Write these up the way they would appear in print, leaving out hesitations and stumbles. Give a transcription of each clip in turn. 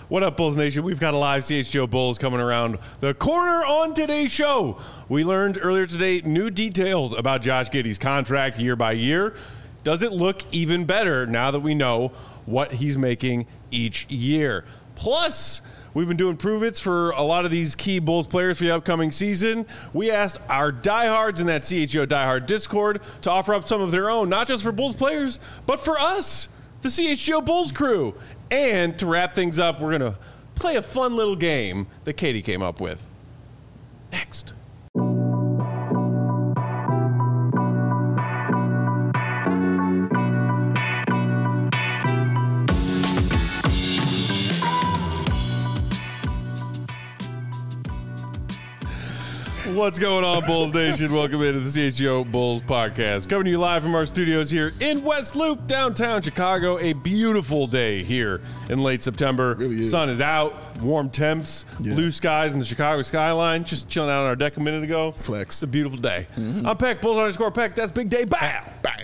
What up, Bulls Nation? We've got a live CHGO Bulls coming around the corner on today's show. We learned earlier today new details about Josh Giddey's contract year by year. Does it look even better now that we know what he's making each year? Plus, we've been doing prove-its for a lot of these key Bulls players for the upcoming season. We asked our diehards in that CHGO Diehard Discord to offer up some of their own, not just for Bulls players, but for us, the CHGO Bulls crew. And to wrap things up, we're going to play a fun little game that Katie came up with. Next. What's going on, Bulls Nation? Welcome into the CHGO Bulls podcast. Coming to you live from our studios here in West Loop, downtown Chicago. A beautiful day here in late September. Really is. Sun is out, warm temps, blue skies in the Chicago skyline. Just chilling out on our deck a minute ago. Flex. It's a beautiful day. I'm Peck, Bulls _ Peck. That's Big Day. Bow.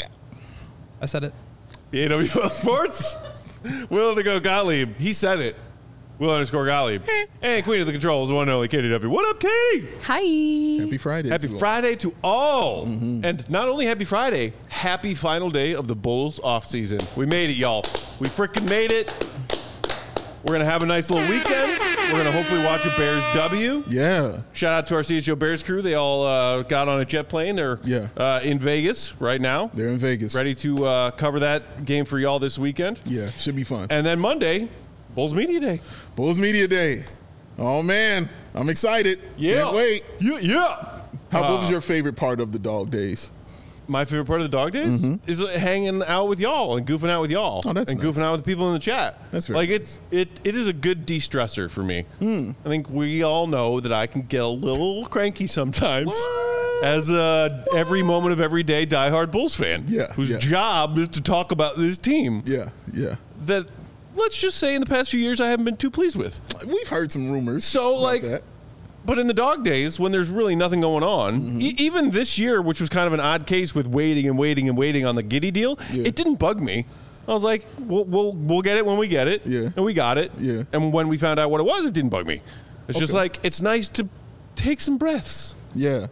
I said it. AWL Sports. Will to go Gottlieb. He said it. Will _ Gottlieb. And Queen of the Controls, the one and only Katie W. What up, Katie? Hi. Happy Friday. Happy Friday to all. And not only happy Friday, happy final day of the Bulls offseason. We made it, y'all. We freaking made it. We're going to have a nice little weekend. We're going to hopefully watch a Bears W. Yeah. Shout out to our CHGO Bears crew. They all got on a jet plane. They're in Vegas right now. They're in Vegas. Ready to cover that game for y'all this weekend. Yeah, should be fun. And then Monday, Bulls Media Day. Bulls Media Day. Oh, man. I'm excited. Yeah. Can't wait. Yeah. What was your favorite part of the dog days? My favorite part of the dog days is hanging out with y'all and goofing out with y'all. Oh, that's and nice. goofing out with the people in the chat. That's very like nice. it is a good de-stressor for me. I think we all know that I can get a little cranky sometimes as every moment of every day diehard Bulls fan. Yeah, whose yeah. job is to talk about this team. Yeah, yeah. That let's just say in the past few years I haven't been too pleased with. We've heard some rumors. So about like. that. But in the dog days, when there's really nothing going on, even this year, which was kind of an odd case with waiting on the Giddey deal, it didn't bug me. I was like, we'll get it when we get it, and we got it. Yeah. And when we found out what it was, it didn't bug me. It's just like it's nice to take some breaths, Yeah.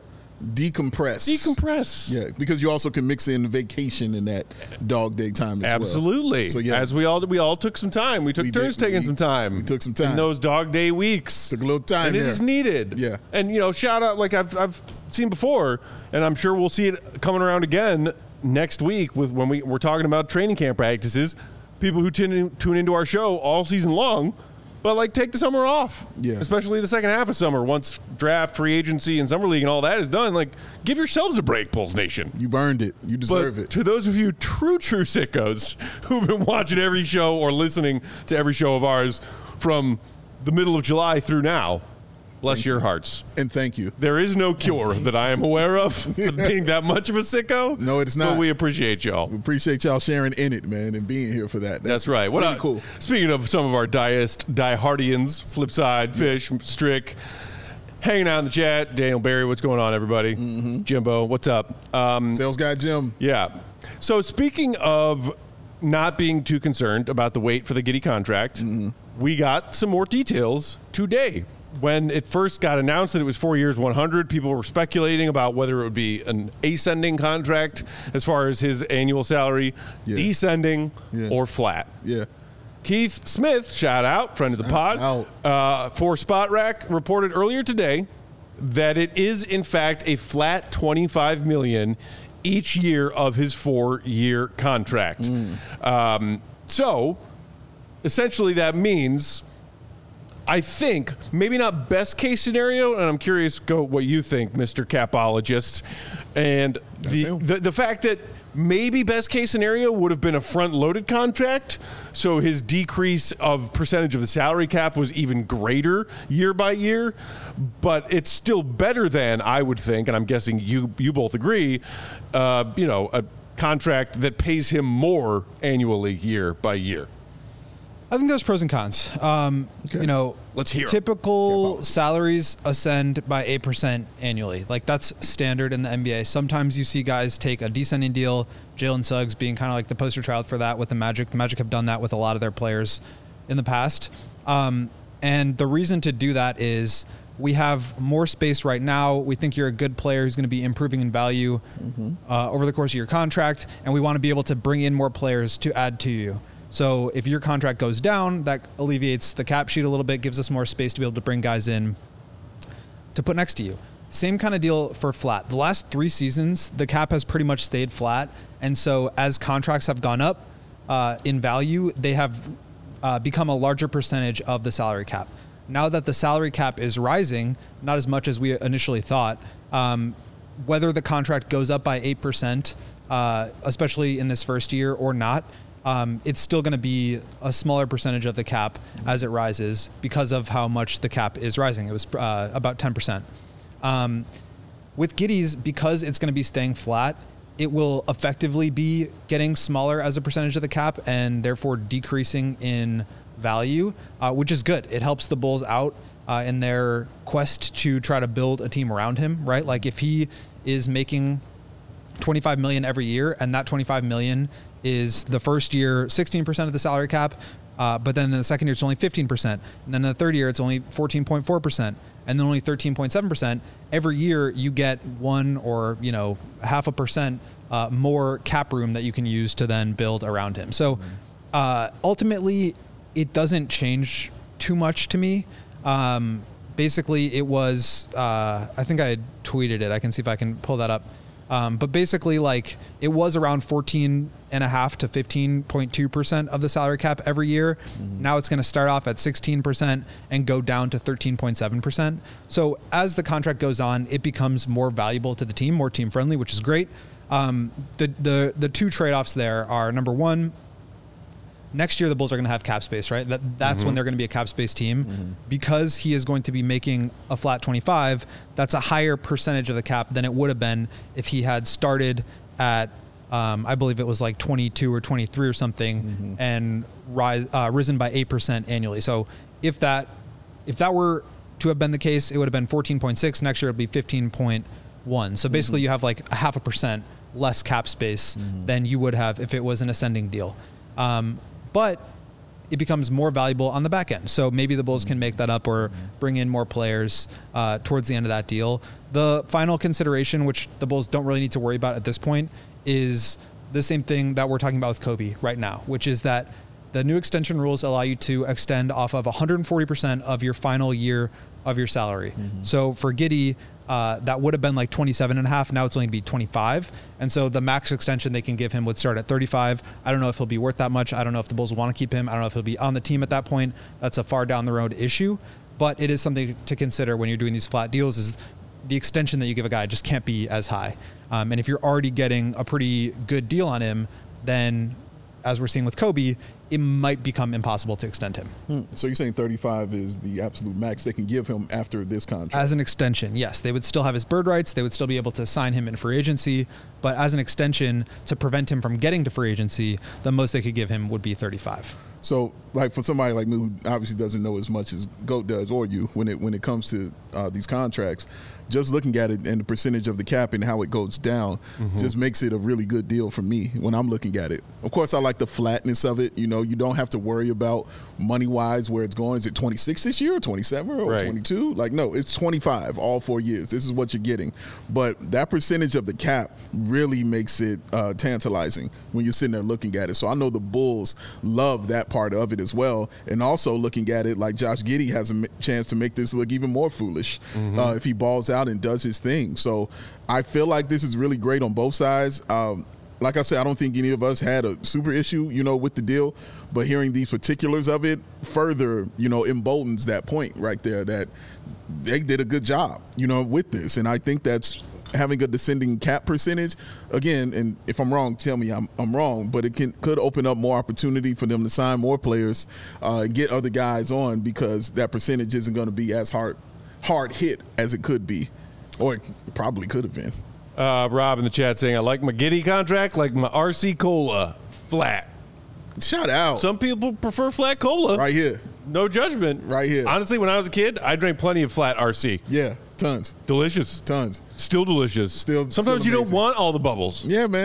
Decompress. Yeah, because you also can mix in vacation in that dog day time as Absolutely. well. So yeah, as we all took some time. We took turns taking some time. We took some time in those dog day weeks. Took a little time and there. it is needed. Yeah. And shout out like I've seen before, and I'm sure we'll see it coming around again next week with when we're talking about training camp practices. People who tune into our show all season long. But, like, take the summer off, especially the second half of summer. Once draft, free agency, and summer league and all that is done, like, give yourselves a break, Bulls Nation. You've earned it. You deserve it. To those of you true sickos who've been watching every show or listening to every show of ours from the middle of July through now, bless your hearts. And thank you. There is no cure that I am aware of for being that much of a sicko. No, it's not. But we appreciate y'all. We appreciate y'all sharing in it, man, and being here for that. That's right. What really cool. Speaking of some of our diehardians, Flipside, Fish, Strick, hanging out in the chat. Daniel Barry, what's going on, everybody? Jimbo, what's up? Sales guy Jim. Yeah. So speaking of not being too concerned about the wait for the Giddey contract, we got some more details today. When it first got announced that it was 4 years, 100, people were speculating about whether it would be an ascending contract as far as his annual salary, descending, or flat. Yeah. Keith Smith, shout out, friend of the pod, for Spot Rack, reported earlier today that it is in fact a flat $25 million each year of his 4-year contract. So essentially that means, I think, maybe not best case scenario, and I'm curious what you think, Mr. Capologist, and the fact that maybe best case scenario would have been a front-loaded contract, so his decrease of percentage of the salary cap was even greater year by year, but it's still better than, I would think, and I'm guessing you both agree, a contract that pays him more annually year by year. I think there's pros and cons. Let's hear 'em. Typical salaries ascend by 8% annually. Like, that's standard in the NBA. Sometimes you see guys take a descending deal, Jalen Suggs being kind of like the poster child for that with the Magic. The Magic have done that with a lot of their players in the past. And the reason to do that is we have more space right now. We think you're a good player who's going to be improving in value over the course of your contract, and we want to be able to bring in more players to add to you. So if your contract goes down, that alleviates the cap sheet a little bit, gives us more space to be able to bring guys in to put next to you. Same kind of deal for flat. The last 3 seasons, the cap has pretty much stayed flat. And so as contracts have gone up in value, they have become a larger percentage of the salary cap. Now that the salary cap is rising, not as much as we initially thought, whether the contract goes up by 8%, especially in this first year or not, it's still going to be a smaller percentage of the cap as it rises because of how much the cap is rising. It was about 10%. With Giddey's, because it's going to be staying flat, it will effectively be getting smaller as a percentage of the cap and therefore decreasing in value, which is good. It helps the Bulls out in their quest to try to build a team around him, right? Like if he is making $25 million every year, and that $25 million is the first year 16% of the salary cap, but then in the second year it's only 15%, and then in the third year it's only 14.4%, and then only 13.7%. Every year you get 1 or 0.5% more cap room that you can use to then build around him. So ultimately, it doesn't change too much to me. Basically, it was I think I had tweeted it. I can see if I can pull that up. But basically, like, it was around 14.5 to 15.2% of the salary cap every year. Now it's going to start off at 16% and go down to 13.7%. So as the contract goes on, it becomes more valuable to the team, more team friendly, which is great. The 2 trade-offs there are, number one, next year the Bulls are going to have cap space, right? That's when they're going to be a cap space team. Because he is going to be making a flat 25, that's a higher percentage of the cap than it would have been if he had started at, I believe it was like 22 or 23 or something, and risen by 8% annually. So if that were to have been the case, it would have been 14.6. Next year it would be 15.1. So basically you have like 0.5% less cap space than you would have if it was an ascending deal. But it becomes more valuable on the back end. So maybe the Bulls can make that up or bring in more players towards the end of that deal. The final consideration, which the Bulls don't really need to worry about at this point, is the same thing that we're talking about with Kobe right now, which is that the new extension rules allow you to extend off of 140% of your final year of your salary. So for Giddey, that would have been like 27.5. Now it's only going to be 25. And so the max extension they can give him would start at 35. I don't know if he'll be worth that much. I don't know if the Bulls want to keep him. I don't know if he'll be on the team at that point. That's a far down the road issue, but it is something to consider when you're doing these flat deals. Is the extension that you give a guy just can't be as high. And if you're already getting a pretty good deal on him, then as we're seeing with Kobe, it might become impossible to extend him. So you're saying 35 is the absolute max they can give him after this contract? As an extension, yes. They would still have his bird rights. They would still be able to sign him in free agency. But as an extension, to prevent him from getting to free agency, the most they could give him would be 35. So, like, for somebody like me who obviously doesn't know as much as GOAT does, or you, when it comes to these contracts, just looking at it and the percentage of the cap and how it goes down just makes it a really good deal for me when I'm looking at it. Of course, I like the flatness of it. You know, you don't have to worry about money-wise where it's going. Is it 26 this year or 27 or 22? Like, no, it's 25 all 4 years. This is what you're getting. But that percentage of the cap really makes it tantalizing when you're sitting there looking at it. So I know the Bulls love that part of it as well. And also looking at it like Josh Giddey has a chance to make this look even more foolish if he balls out and does his thing. So I feel like this is really great on both sides. Like I said, I don't think any of us had a super issue, with the deal, but hearing these particulars of it further, emboldens that point right there that they did a good job, with this. And I think that's having a descending cap percentage, again, and if I'm wrong, tell me I'm wrong, but it could open up more opportunity for them to sign more players, get other guys on, because that percentage isn't going to be as hard hit as it could be, or it probably could have been. Rob in the chat saying, I like my Giddey contract, like my RC Cola, flat. Shout out. Some people prefer flat cola. Right here. No judgment. Right here. Honestly, when I was a kid, I drank plenty of flat RC. Yeah, tons. Delicious. Tons. Still delicious. Still Sometimes you amazing. don't want all the bubbles. Yeah, man.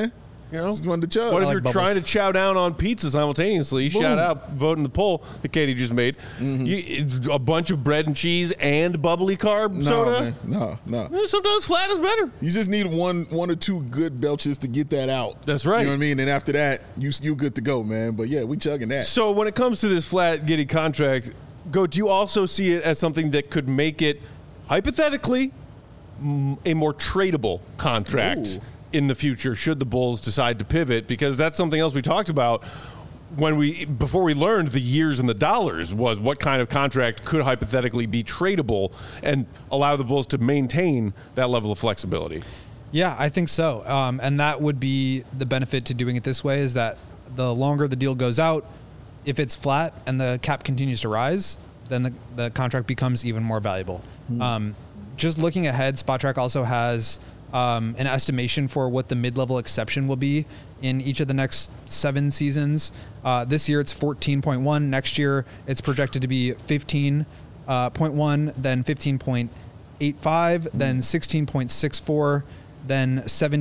You know, just wanted to chug. What if like you're bubbles. trying to chow down on pizza simultaneously? Boom. Shout out voting the poll that Katie just made. It's a bunch of bread and cheese and bubbly carb soda. Man. No. Sometimes flat is better. You just need one or two good belches to get that out. That's right. You know what I mean? And after that, you good to go, man. But yeah, we chugging that. So when it comes to this flat Giddey contract, do you also see it as something that could make it, hypothetically, a more tradable contract Ooh. in the future should the Bulls decide to pivot? Because that's something else we talked about before we learned the years and the dollars, was what kind of contract could hypothetically be tradable and allow the Bulls to maintain that level of flexibility. Yeah, I think so. And that would be the benefit to doing it this way, is that the longer the deal goes out, if it's flat and the cap continues to rise, then the contract becomes even more valuable. Just looking ahead, SpotTrack also has an estimation for what the mid-level exception will be in each of the next 7 seasons. This year it's 14.1. Next year it's projected to be 15.1, then 15.85, then 16.64, then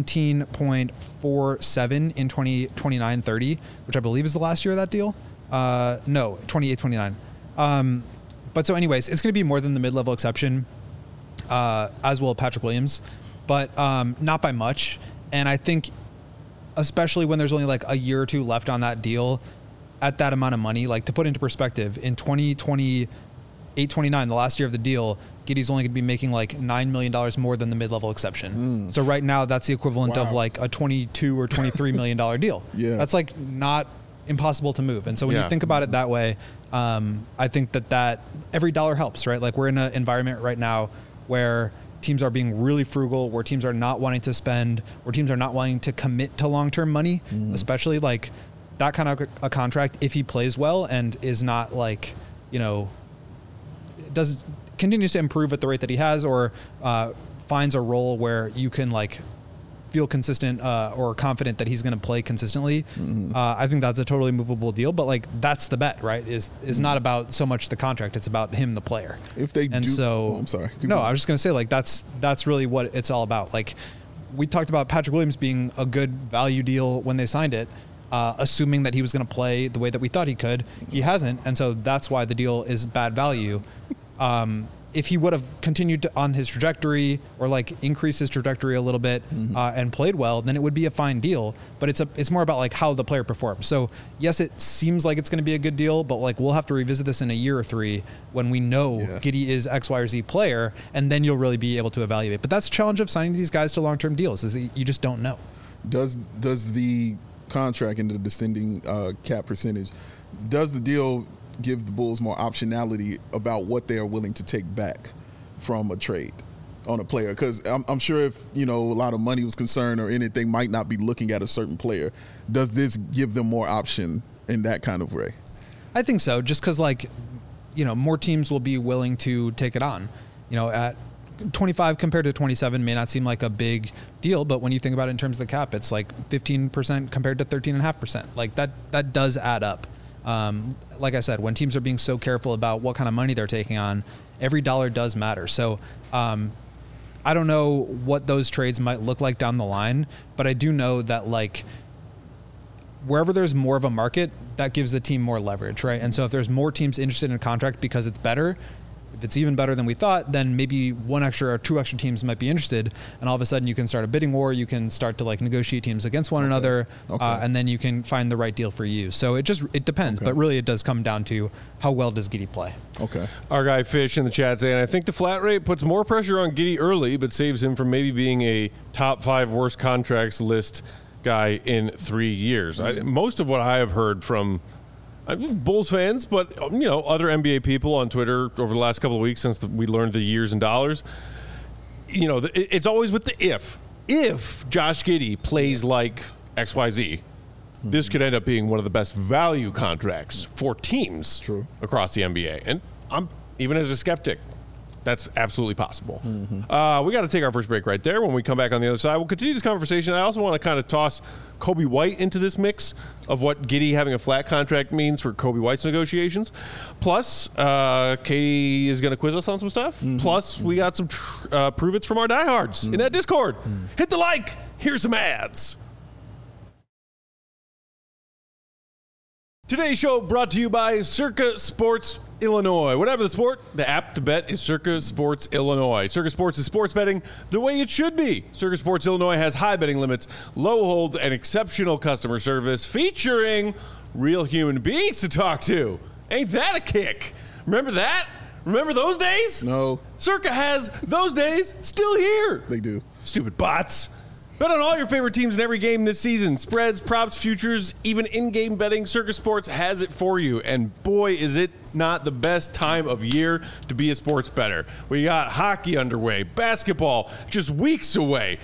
17.47 in 2029-30, which I believe is the last year of that deal. No, 28-29. But so anyways, it's going to be more than the mid-level exception, as well as Patrick Williams, but not by much. And I think, especially when there's only like a year or two left on that deal, at that amount of money, like to put into perspective, in 2028-29, the last year of the deal, Giddey's only going to be making like $9 million more than the mid-level exception. So right now, that's the equivalent of like a $22 or $23 million deal. Yeah. That's like not impossible to move. And so when you think about it that way, I think that every dollar helps, right? Like we're in an environment right now where teams are being really frugal, where teams are not wanting to spend, where teams are not wanting to commit to long-term money, especially like that kind of a contract. If he plays well and is not like, continues to improve at the rate that he has, or finds a role where you can like feel consistent or confident that he's going to play consistently, I think that's a totally movable deal. But like that's the bet, right? Is not about so much the contract; it's about him, the player. If they and do, so I'm sorry. No, I was just going to say like that's really what it's all about. Like we talked about Patrick Williams being a good value deal when they signed it, assuming that he was going to play the way that we thought he could. He hasn't, and so that's why the deal is bad value. If he would have continued on his trajectory or like increased his trajectory a little bit and played well, then it would be a fine deal. But it's more about like how the player performs. So yes, it seems like it's going to be a good deal, but like we'll have to revisit this in a year or 3 when we know Giddey is X, Y, or Z player, and then you'll really be able to evaluate. But that's the challenge of signing these guys to long-term deals, is that you just don't know. Does the contract and the descending cap percentage, does the deal give the Bulls more optionality about what they are willing to take back from a trade on a player? Because I'm sure if a lot of money was concerned or anything, might not be looking at a certain player. Does this give them more option in that kind of way? I think so, just because more teams will be willing to take it on. At 25 compared to 27 may not seem like a big deal, but when you think about it in terms of the cap, it's like 15% compared to 13.5%. Like that does add up. Like I said, when teams are being so careful about what kind of money they're taking on, every dollar does matter. So I don't know what those trades might look like down the line, but I do know that like wherever there's more of a market, that gives the team more leverage, right? And so if there's more teams interested in a contract because it's better, if it's even better than we thought, then maybe 1 extra or 2 extra teams might be interested, and all of a sudden you can start a bidding war. You can start to like negotiate teams against one another, and then you can find the right deal for you. So it depends, but really it does come down to how well does Giddey play. Okay. Our guy Fish in the chat saying, I think the flat rate puts more pressure on Giddey early, but saves him from maybe being a top 5 worst contracts list guy in 3 years. Most of what I have heard from Bulls fans, but other NBA people on Twitter over the last couple of weeks since we learned the years and dollars, it's always with the if Josh Giddey plays like XYZ, this could end up being one of the best value contracts for teams across the NBA. And I'm even as a skeptic, that's absolutely possible. We got to take our first break right there. When we come back on the other side, we'll continue this conversation. I also want to kind of toss Kobe White into this mix of what Giddey having a flat contract means for Kobe White's negotiations. Plus, Katie is going to quiz us on some stuff. Plus, we got some prove-its from our diehards in that Discord. Hit the like. Here's some ads. Today's show brought to you by Circa Sports Illinois. Whatever the sport, the app to bet is Circa Sports Illinois. Circa Sports is sports betting the way it should be. Circa Sports Illinois has high betting limits, low holds, and exceptional customer service featuring real human beings to talk to. Ain't that a kick? Remember that? Remember those days? No. Circa has those days still here. They do. Stupid bots. Bet on all your favorite teams in every game this season. Spreads, props, futures, even in-game betting. Circa Sports has it for you. And boy, is it not the best time of year to be a sports bettor. We got hockey underway, basketball just weeks away,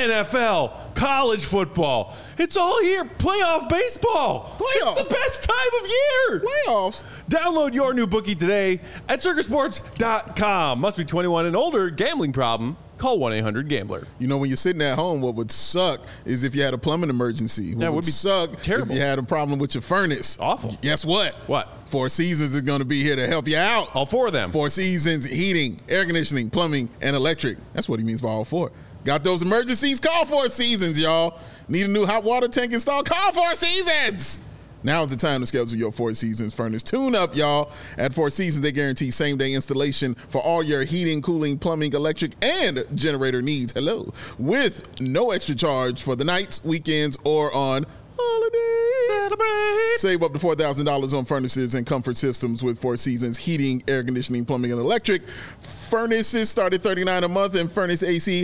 NFL, college football. It's all here. Playoff baseball. It's the best time of year. Playoffs. Download your new bookie today at circasports.com. Must be 21 and older. Gambling problem? Call 1-800-GAMBLER. You know, when you're sitting at home, what would suck is if you had a plumbing emergency. What would suck terrible if you had a problem with your furnace. Awful. Guess what? What? Four Seasons is going to be here to help you out. All four of them. Four Seasons, heating, air conditioning, plumbing, and electric. That's what he means by all four. Got those emergencies? Call Four Seasons, y'all. Need a new hot water tank installed? Call Four Seasons. Now is the time to schedule your Four Seasons furnace tune-up, y'all. At Four Seasons, they guarantee same-day installation for all your heating, cooling, plumbing, electric, and generator needs. Hello. With no extra charge for the nights, weekends, or on holidays. Celebrate. Save up to $4,000 on furnaces and comfort systems with Four Seasons heating, air conditioning, plumbing, and electric. Furnaces start at $39 a month, and furnace AC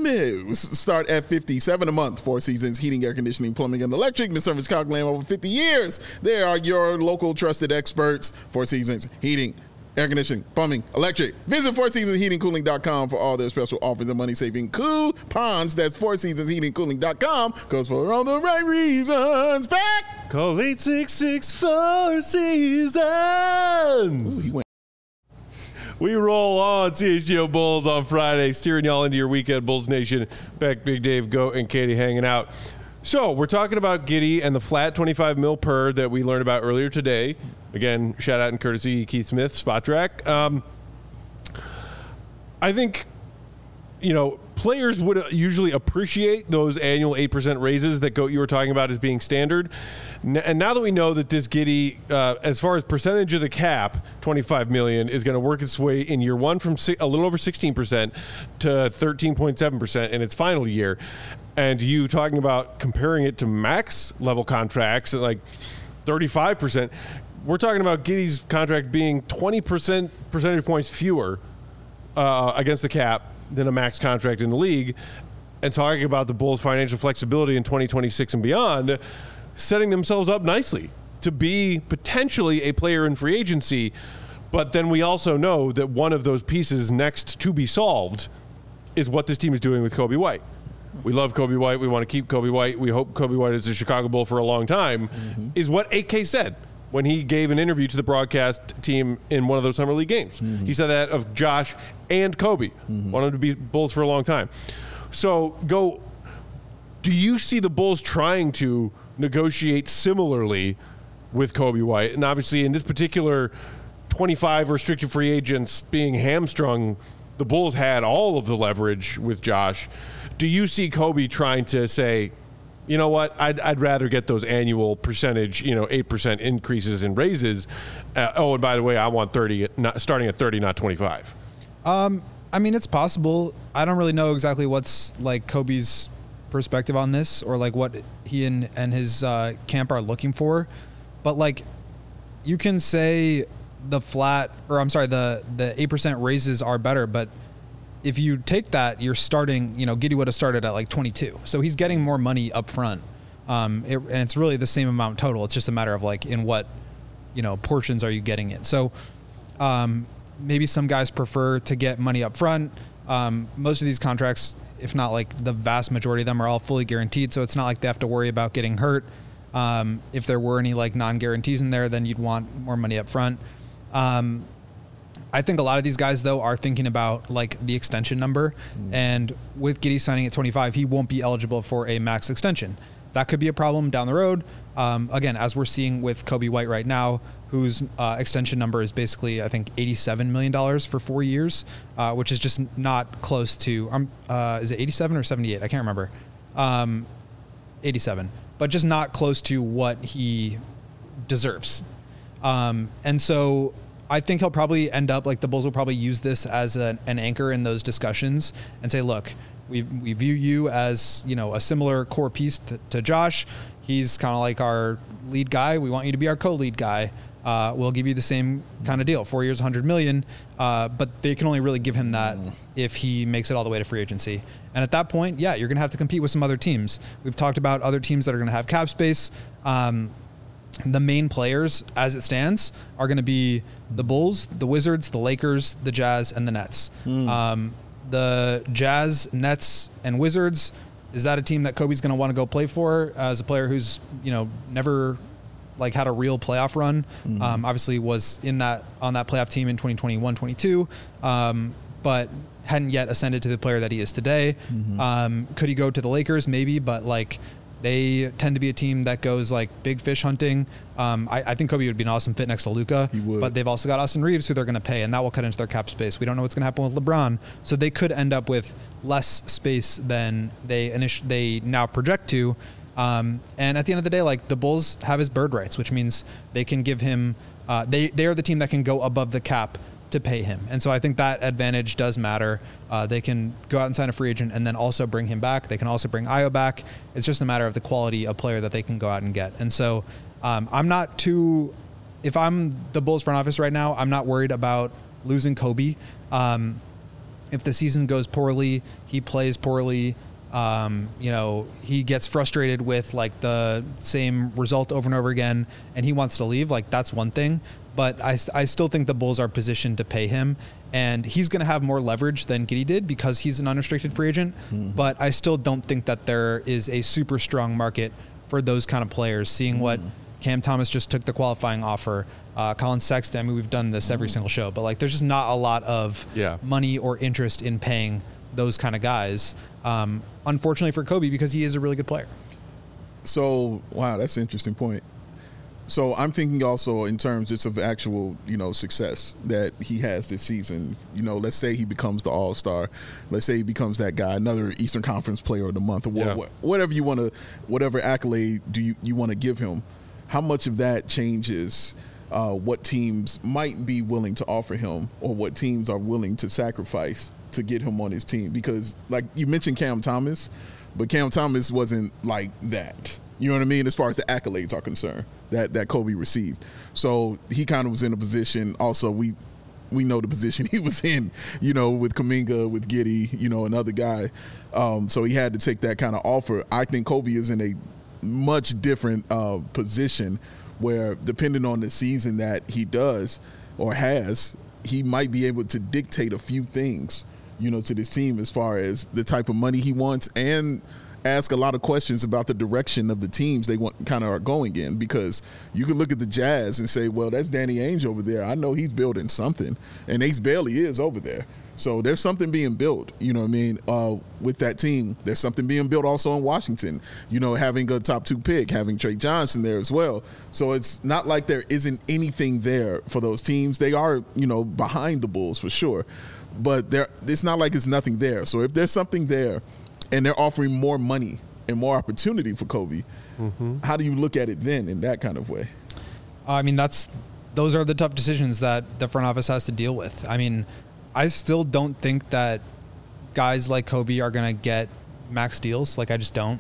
start at $57 a month. Four Seasons heating, air conditioning, plumbing, and electric. The service calculating over 50 years. They are your local trusted experts. Four Seasons heating, air conditioning, plumbing, electric. Visit FourSeasonsHeatingCooling.com for all their special offers and money-saving coupons. That's FourSeasonsHeatingCooling.com, because for all the right reasons. Back! Call 866 Four Seasons. We roll on CHGO Bulls on Friday, steering y'all into your weekend, Bulls Nation. Beck, Big Dave, Goat, and Katie hanging out. So we're talking about Giddey and the flat 25 mil per that we learned about earlier today. Again, shout out and courtesy Keith Smith, Spotrac. I think, players would usually appreciate those annual 8% raises that Goat you were talking about as being standard. And now that we know that this Giddey, as far as percentage of the cap, $25 million, is going to work its way in year one from a little over 16% to 13.7% in its final year. And you talking about comparing it to max level contracts at like 35%. We're talking about Giddey's contract being 20 percentage points fewer against the cap than a max contract in the league, and talking about the Bulls' financial flexibility in 2026 and beyond, setting themselves up nicely to be potentially a player in free agency. But then we also know that one of those pieces next to be solved is what this team is doing with Coby White. We love Coby White. We want to keep Coby White. We hope Coby White is a Chicago Bull for a long time, is what 8K said when he gave an interview to the broadcast team in one of those summer league games. He said that of Josh and Coby. Want them to be Bulls for a long time. So, do you see the Bulls trying to negotiate similarly with Coby White? And obviously in this particular 25 restricted free agents being hamstrung, the Bulls had all of the leverage with Josh. Do you see Coby trying to say, you know what, I'd rather get those annual percentage, 8% increases in raises. And by the way, I want 30, starting at 30, not 25. I mean, it's possible. I don't really know exactly what's like Coby's perspective on this, or like what he and his camp are looking for. But like, you can say the 8% raises are better, but if you take that, you're starting, Giddey would have started at like 22. So he's getting more money up front. And it's really the same amount total. It's just a matter of like, in what, portions are you getting it? So maybe some guys prefer to get money up front. Most of these contracts, if not like the vast majority of them, are all fully guaranteed. So it's not like they have to worry about getting hurt. If there were any like non-guarantees in there, then you'd want more money up front. I think a lot of these guys, though, are thinking about like the extension number. And with Giddey signing at 25, he won't be eligible for a max extension. That could be a problem down the road. Again, as we're seeing with Coby White right now, whose extension number is basically, I think, $87 million for 4 years, which is just not close to, is it 87 or 78? I can't remember. 87, but just not close to what he deserves. And so I think he'll probably end up like the Bulls will probably use this as an anchor in those discussions and say, look, we view you as, you know, a similar core piece to Josh. He's kind of like our lead guy. We want you to be our co-lead guy. We'll give you the same kind of deal, 4 years, $100 million. But they can only really give him that if he makes it all the way to free agency. And at that point, yeah, you're going to have to compete with some other teams. We've talked about other teams that are going to have cap space. The main players, as it stands, are going to be the Bulls, the Wizards, the Lakers, the Jazz, and the Nets. The Jazz, Nets, and Wizards, is that a team that Kobe's going to want to go play for as a player who's, you know, never like had a real playoff run? Obviously was on that playoff team in 2021-22, but hadn't yet ascended to the player that he is today. Could he go to the Lakers? Maybe, but like they tend to be a team that goes like big fish hunting. I think Kobe would be an awesome fit next to Luka, but they've also got Austin Reeves who they're going to pay, and that will cut into their cap space. We don't know what's going to happen with LeBron, so they could end up with less space than they now project to. And at the end of the day, like the Bulls have his bird rights, which means they can give him. They are the team that can go above the cap to pay him, and so I think that advantage does matter. They can go out and sign a free agent and then also bring him back. They can also bring Ayo back. It's just a matter of the quality of player that they can go out and get. And so I'm not too. If I'm the Bulls front office right now, I'm not worried about losing Kobe. If the season goes poorly, he plays poorly. You know, he gets frustrated with like the same result over and over again and he wants to leave, like that's one thing, but I still think the Bulls are positioned to pay him, and he's going to have more leverage than Giddey did because he's an unrestricted free agent. But I still don't think that there is a super strong market for those kind of players, seeing what Cam Thomas just took the qualifying offer. Colin Sexton, I mean, we've done this every single show, but like there's just not a lot of money or interest in paying those kind of guys. Unfortunately for Kobe, because he is a really good player. So, wow, that's an interesting point. So I'm thinking also in terms just of actual, you know, success that he has this season. You know, let's say he becomes the All-Star. Let's say he becomes that guy, another Eastern Conference Player of the Month, or whatever you want to, whatever accolade do you want to give him. How much of that changes what teams might be willing to offer him, or what teams are willing to sacrifice to get him on his team? Because like you mentioned Cam Thomas, but Cam Thomas wasn't like that. You know what I mean? As far as the accolades are concerned that Kobe received. So he kind of was in a position. Also, we know the position he was in, you know, with Kuminga, with Giddey, you know, another guy. So he had to take that kind of offer. I think Kobe is in a much different position where, depending on the season that he does or has, he might be able to dictate a few things, you know, to this team as far as the type of money he wants, and ask a lot of questions about the direction of the teams they want kind of are going in. Because you can look at the Jazz and say, well, that's Danny Ainge over there. I know he's building something, and Ace Bailey is over there. So there's something being built, you know what I mean, with that team. There's something being built also in Washington, you know, having a top 2 pick, having Trey Johnson there as well. So it's not like there isn't anything there for those teams. They are, you know, behind the Bulls for sure, but it's not like it's nothing there. So if there's something there and they're offering more money and more opportunity for Kobe, how do you look at it then in that kind of way? I mean, those are the tough decisions that the front office has to deal with. I mean, I still don't think that guys like Kobe are going to get max deals. Like, I just don't.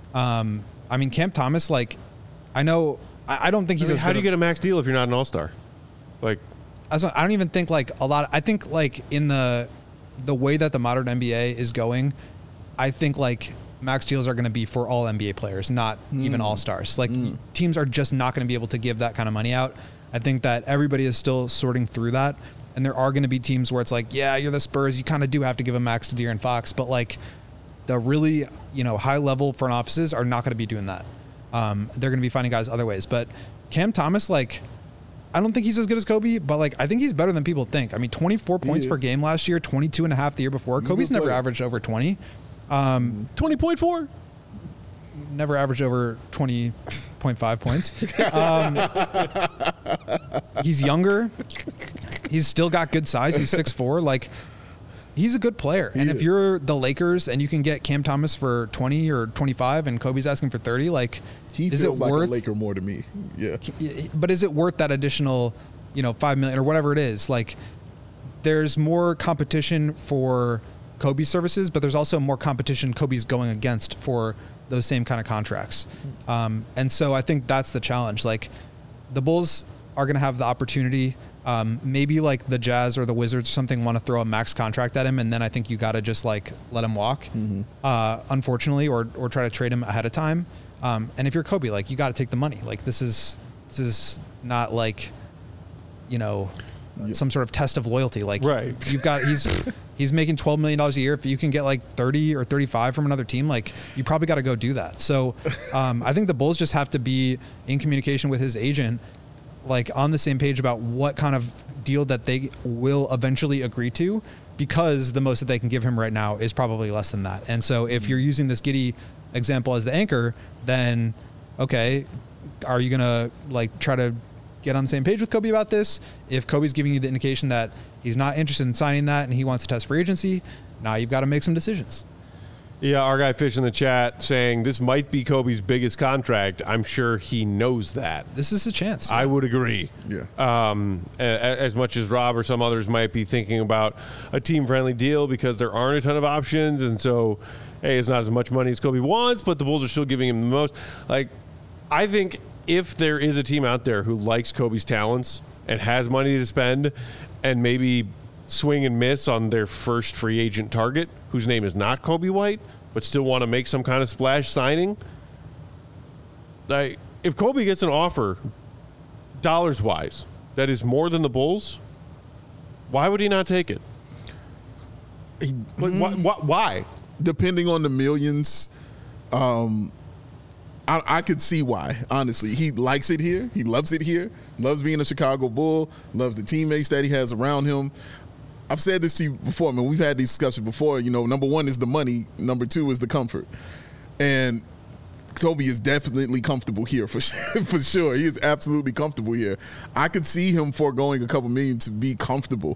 I mean, Cam Thomas, like, I know, I don't think he's as good. How do you get a max deal if you're not an all-star? Like, I don't even think like a lot. I think like in the way that the modern NBA is going, I think like max deals are going to be for all NBA players, not even all-stars. Like teams are just not going to be able to give that kind of money out. I think that everybody is still sorting through that. And there are going to be teams where it's like, yeah, you're the Spurs, you kind of do have to give a max to De'Aaron Fox, but like the really, you know, high level front offices are not going to be doing that. They're going to be finding guys other ways. But Cam Thomas, like, I don't think he's as good as Kobe, but like I think he's better than people think. I mean, 24 points per game last year, 22.5 the year before. Kobe's never averaged over 20. 20.4? Never averaged over 20.5 points. He's younger. He's still got good size. He's 6'4". Like, He's a good player. And if you're the Lakers and you can get Cam Thomas for 20 or 25 and Kobe's asking for 30, like, he feels like a Laker more to me. Yeah. But is it worth that additional, $5 million or whatever it is? Like, there's more competition for Kobe's services, but there's also more competition Kobe's going against for those same kind of contracts. And so I think that's the challenge. Like, the Bulls are going to have the opportunity. Maybe like the Jazz or the Wizards or something want to throw a max contract at him, and then I think you got to just like let him walk, unfortunately, or try to trade him ahead of time. And if you're Kobe, like, you got to take the money. Like, this is not like, some sort of test of loyalty. Like, right. He's making $12 million a year. If you can get like 30 or 35 from another team, like, you probably got to go do that. So I think the Bulls just have to be in communication with his agent, like, on the same page about what kind of deal that they will eventually agree to, because the most that they can give him right now is probably less than that. And so if you're using this Giddey example as the anchor, then okay, are you gonna like try to get on the same page with Kobe about this? If Kobe's giving you the indication that he's not interested in signing that and he wants to test free agency, now you've got to make some decisions. Yeah, our guy Fish in the chat saying this might be Kobe's biggest contract. I'm sure he knows that. This is a chance. I would agree. Yeah. As much as Rob or some others might be thinking about a team-friendly deal because there aren't a ton of options, and so, hey, it's not as much money as Kobe wants, but the Bulls are still giving him the most. Like, I think if there is a team out there who likes Kobe's talents and has money to spend and maybe swing and miss on their first free agent target, whose name is not Kobe White, but still want to make some kind of splash signing, like, if Kobe gets an offer, dollars-wise, that is more than the Bulls, why would he not take it? Why? Depending on the millions, I could see why, honestly. He likes it here. He loves it here. Loves being a Chicago Bull. Loves the teammates that he has around him. I've said this to you before. I mean, we've had these discussions before. Number one is the money. Number two is the comfort. And Kobe is definitely comfortable here for sure. He is absolutely comfortable here. I could see him foregoing a couple million to be comfortable.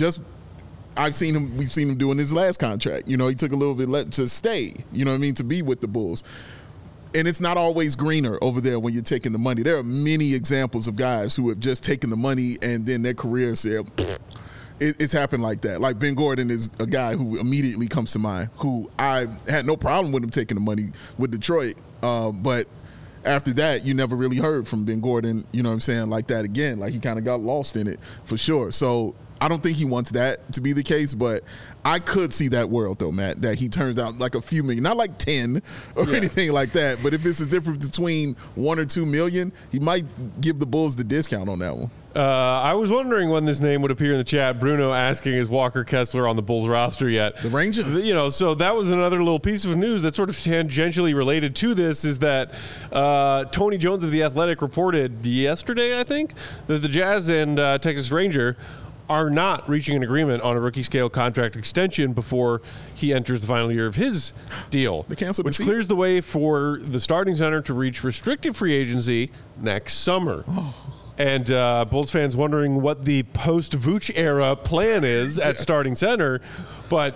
We've seen him doing his last contract. He took a little bit to stay, to be with the Bulls. And it's not always greener over there when you're taking the money. There are many examples of guys who have just taken the money and then their career said, it's happened like that. Like, Ben Gordon is a guy who immediately comes to mind, who I had no problem with him taking the money with Detroit. But after that, you never really heard from Ben Gordon, like that again. Like, he kind of got lost in it for sure. So I don't think he wants that to be the case, but I could see that world, though, Matt, that he turns out like a few million, not like 10 or anything like that, but if this is different between 1 or 2 million, he might give the Bulls the discount on that one. I was wondering when this name would appear in the chat. Bruno asking, is Walker Kessler on the Bulls roster yet? The Ranger? So that was another little piece of news that's sort of tangentially related to this, is that Tony Jones of The Athletic reported yesterday, I think, that the Jazz and Texas Ranger are not reaching an agreement on a rookie scale contract extension before he enters the final year of his deal. They canceled which clears the way for the starting center to reach restricted free agency next summer. And Bulls fans wondering what the post-Vooch era plan is at starting center. But,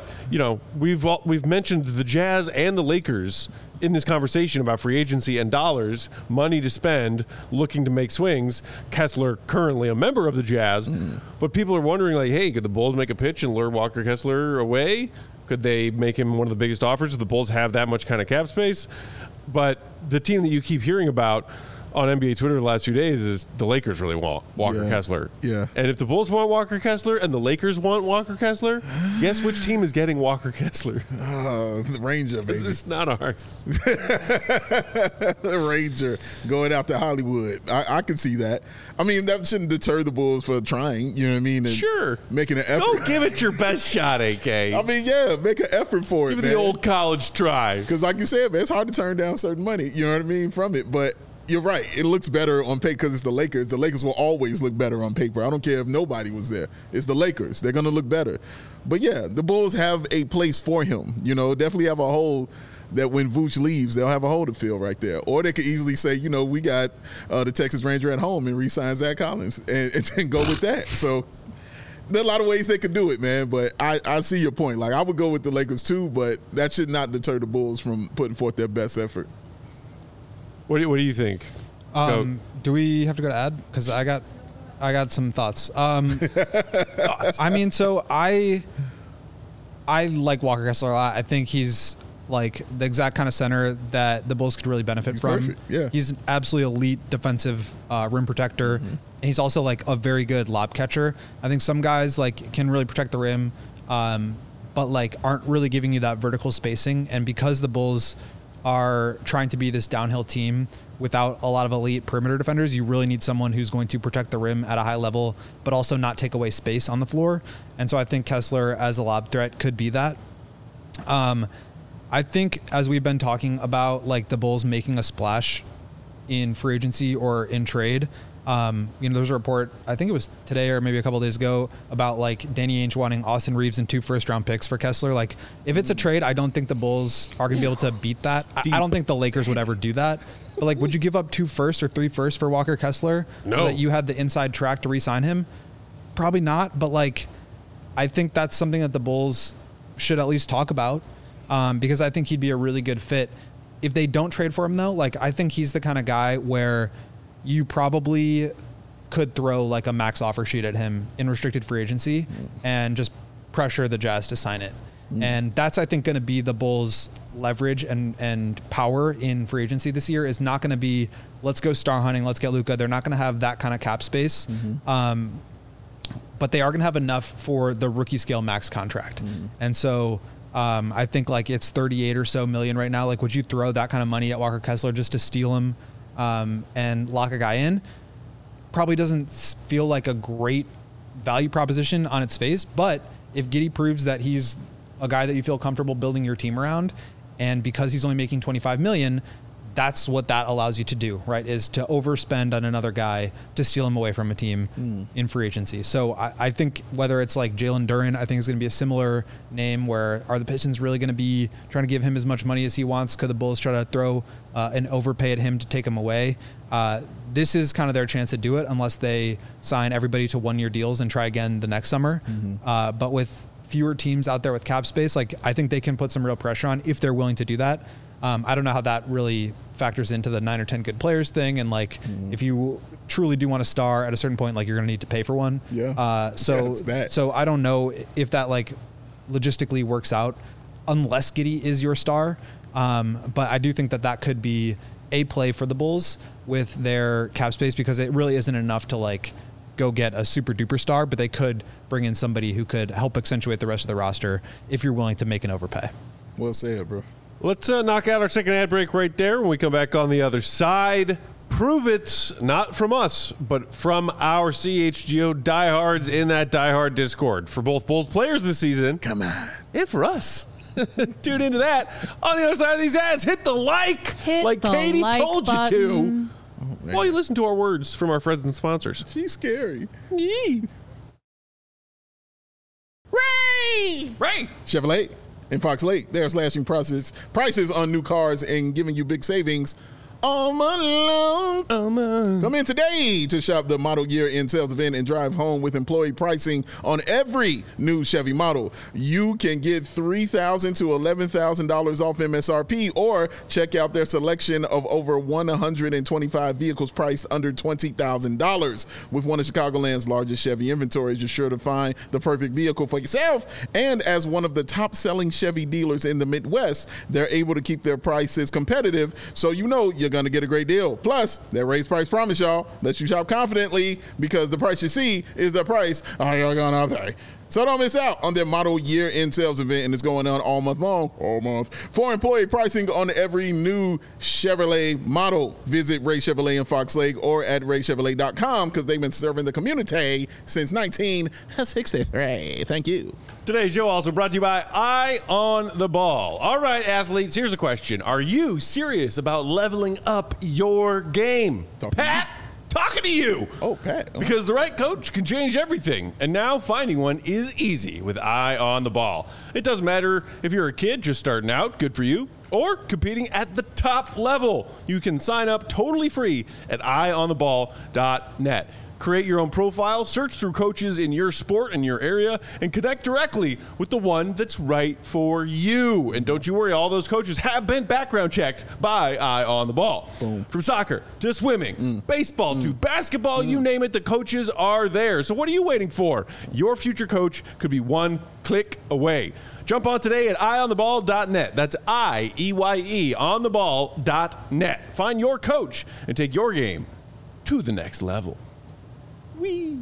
we've mentioned the Jazz and the Lakers in this conversation about free agency and dollars, money to spend, looking to make swings. Kessler, currently a member of the Jazz. But people are wondering, like, hey, could the Bulls make a pitch and lure Walker Kessler away? Could they make him one of the biggest offers? Do the Bulls have that much kind of cap space? But the team that you keep hearing about on NBA Twitter the last few days is the Lakers really want Walker Kessler. Yeah. And if the Bulls want Walker Kessler and the Lakers want Walker Kessler, guess which team is getting Walker Kessler? The Ranger, baby. It's not ours. The Ranger going out to Hollywood. I can see that. I mean, that shouldn't deter the Bulls for trying, you know what I mean? And sure. Making an effort. Don't give it your best shot, AK. I mean, make an effort for it, Give it the old college try. Because like you said, man, it's hard to turn down certain money, you know what I mean, from it. But you're right. It looks better on paper because it's the Lakers. The Lakers will always look better on paper. I don't care if nobody was there. It's the Lakers. They're going to look better. But, yeah, the Bulls have a place for him. Definitely have a hole that when Vooch leaves, they'll have a hole to fill right there. Or they could easily say, we got the Texas Ranger at home and re-sign Zach Collins and go with that. So there are a lot of ways they could do it, man. But I see your point. Like, I would go with the Lakers too, but that should not deter the Bulls from putting forth their best effort. What do you think? Do we have to go to ad? Because I got some thoughts. I mean, so I like Walker Kessler a lot. I think he's like the exact kind of center that the Bulls could really benefit from. Perfect. Yeah. He's an absolutely elite defensive rim protector. Mm-hmm. And he's also like a very good lob catcher. I think some guys like can really protect the rim, but like aren't really giving you that vertical spacing. And because the Bulls are trying to be this downhill team without a lot of elite perimeter defenders, you really need someone who's going to protect the rim at a high level, but also not take away space on the floor. And so I think Kessler as a lob threat could be that. I think as we've been talking about like the Bulls making a splash in free agency or in trade, there's a report, I think it was today or maybe a couple of days ago, about like Danny Ainge wanting Austin Reeves and 2 first-round picks for Kessler. Like, if it's a trade, I don't think the Bulls are going to be able to beat that. I don't think the Lakers would ever do that. But like, would you give up 2 firsts or 3 firsts for Walker Kessler so that you had the inside track to re-sign him? Probably not. But like, I think that's something that the Bulls should at least talk about, because I think he'd be a really good fit. If they don't trade for him though, like I think he's the kind of guy where you probably could throw like a max offer sheet at him in restricted free agency and just pressure the Jazz to sign it. And that's, I think, going to be the Bulls' leverage and power in free agency this year. Is not going to be, let's go star hunting, let's get Luka. They're not going to have that kind of cap space. But they are going to have enough for the rookie scale max contract. And so I think like it's 38 or so million right now. Like, would you throw that kind of money at Walker Kessler just to steal him and lock a guy in? Probably doesn't feel like a great value proposition on its face. But if Giddey proves that he's a guy that you feel comfortable building your team around, and because he's only making $25 million, that's what that allows you to do, right? Is to overspend on another guy to steal him away from a team in free agency. So I think whether it's like Jalen Duren, I think is going to be a similar name. Where are the Pistons really going to be trying to give him as much money as he wants? Could the Bulls try to throw an overpay at him to take him away? This is kind of their chance to do it, unless they sign everybody to 1-year deals and try again the next summer. But with fewer teams out there with cap space, like I think they can put some real pressure on if they're willing to do that. I don't know how that really factors into the 9 or 10 good players thing. And like, if you truly do want a star at a certain point, like you're going to need to pay for one. So I don't know if that like logistically works out unless Giddey is your star. But I do think that that could be a play for the Bulls with their cap space, because it really isn't enough to like go get a super duper star, but they could bring in somebody who could help accentuate the rest of the roster if you're willing to make an overpay. Well said, bro. Let's knock out our second ad break right there. When we come back on the other side, prove it, not from us, but from our CHGO diehards in that diehard Discord for both Bulls players this season. Come on. And for us. Tune into that. On the other side of these ads, hit the like Katie told you to. While you listen to our words from our friends and sponsors. She's scary. Yee. Ray! Chevrolet in Fox Lake, they're slashing prices on new cars and giving you big savings all month long. Come in today to shop the model year end sales event and drive home with employee pricing on every new Chevy model. You can get $3,000 to $11,000 off MSRP, or check out their selection of over 125 vehicles priced under $20,000. With one of Chicagoland's largest Chevy inventories, you're sure to find the perfect vehicle for yourself. And as one of the top selling Chevy dealers in the Midwest, they're able to keep their prices competitive, so you know you're going to get a great deal. Plus, their raised price promise, y'all, lets you shop confidently, because the price you see is the price you're going to pay. So don't miss out on their model year-end sales event, and it's going on all month long. For employee pricing on every new Chevrolet model, visit Ray Chevrolet in Fox Lake or at raychevrolet.com, because they've been serving the community since 1963. Thank you. Today's show also brought to you by Eye on the Ball. All right, athletes, here's a question. Are you serious about leveling up your game? Pat? Talking to you. Oh, Pat. Because the right coach can change everything. And now finding one is easy with Eye on the Ball. It doesn't matter if you're a kid just starting out, good for you, or competing at the top level. You can sign up totally free at eyeontheball.net. Create your own profile, search through coaches in your sport and your area, and connect directly with the one that's right for you. And don't you worry, all those coaches have been background checked by Eye on the Ball. Boom. From soccer to swimming, baseball to basketball, you name it, the coaches are there. So what are you waiting for? Your future coach could be one click away. Jump on today at eyeontheball.net. That's IEYE ontheball.net. Find your coach and take your game to the next level. Whee!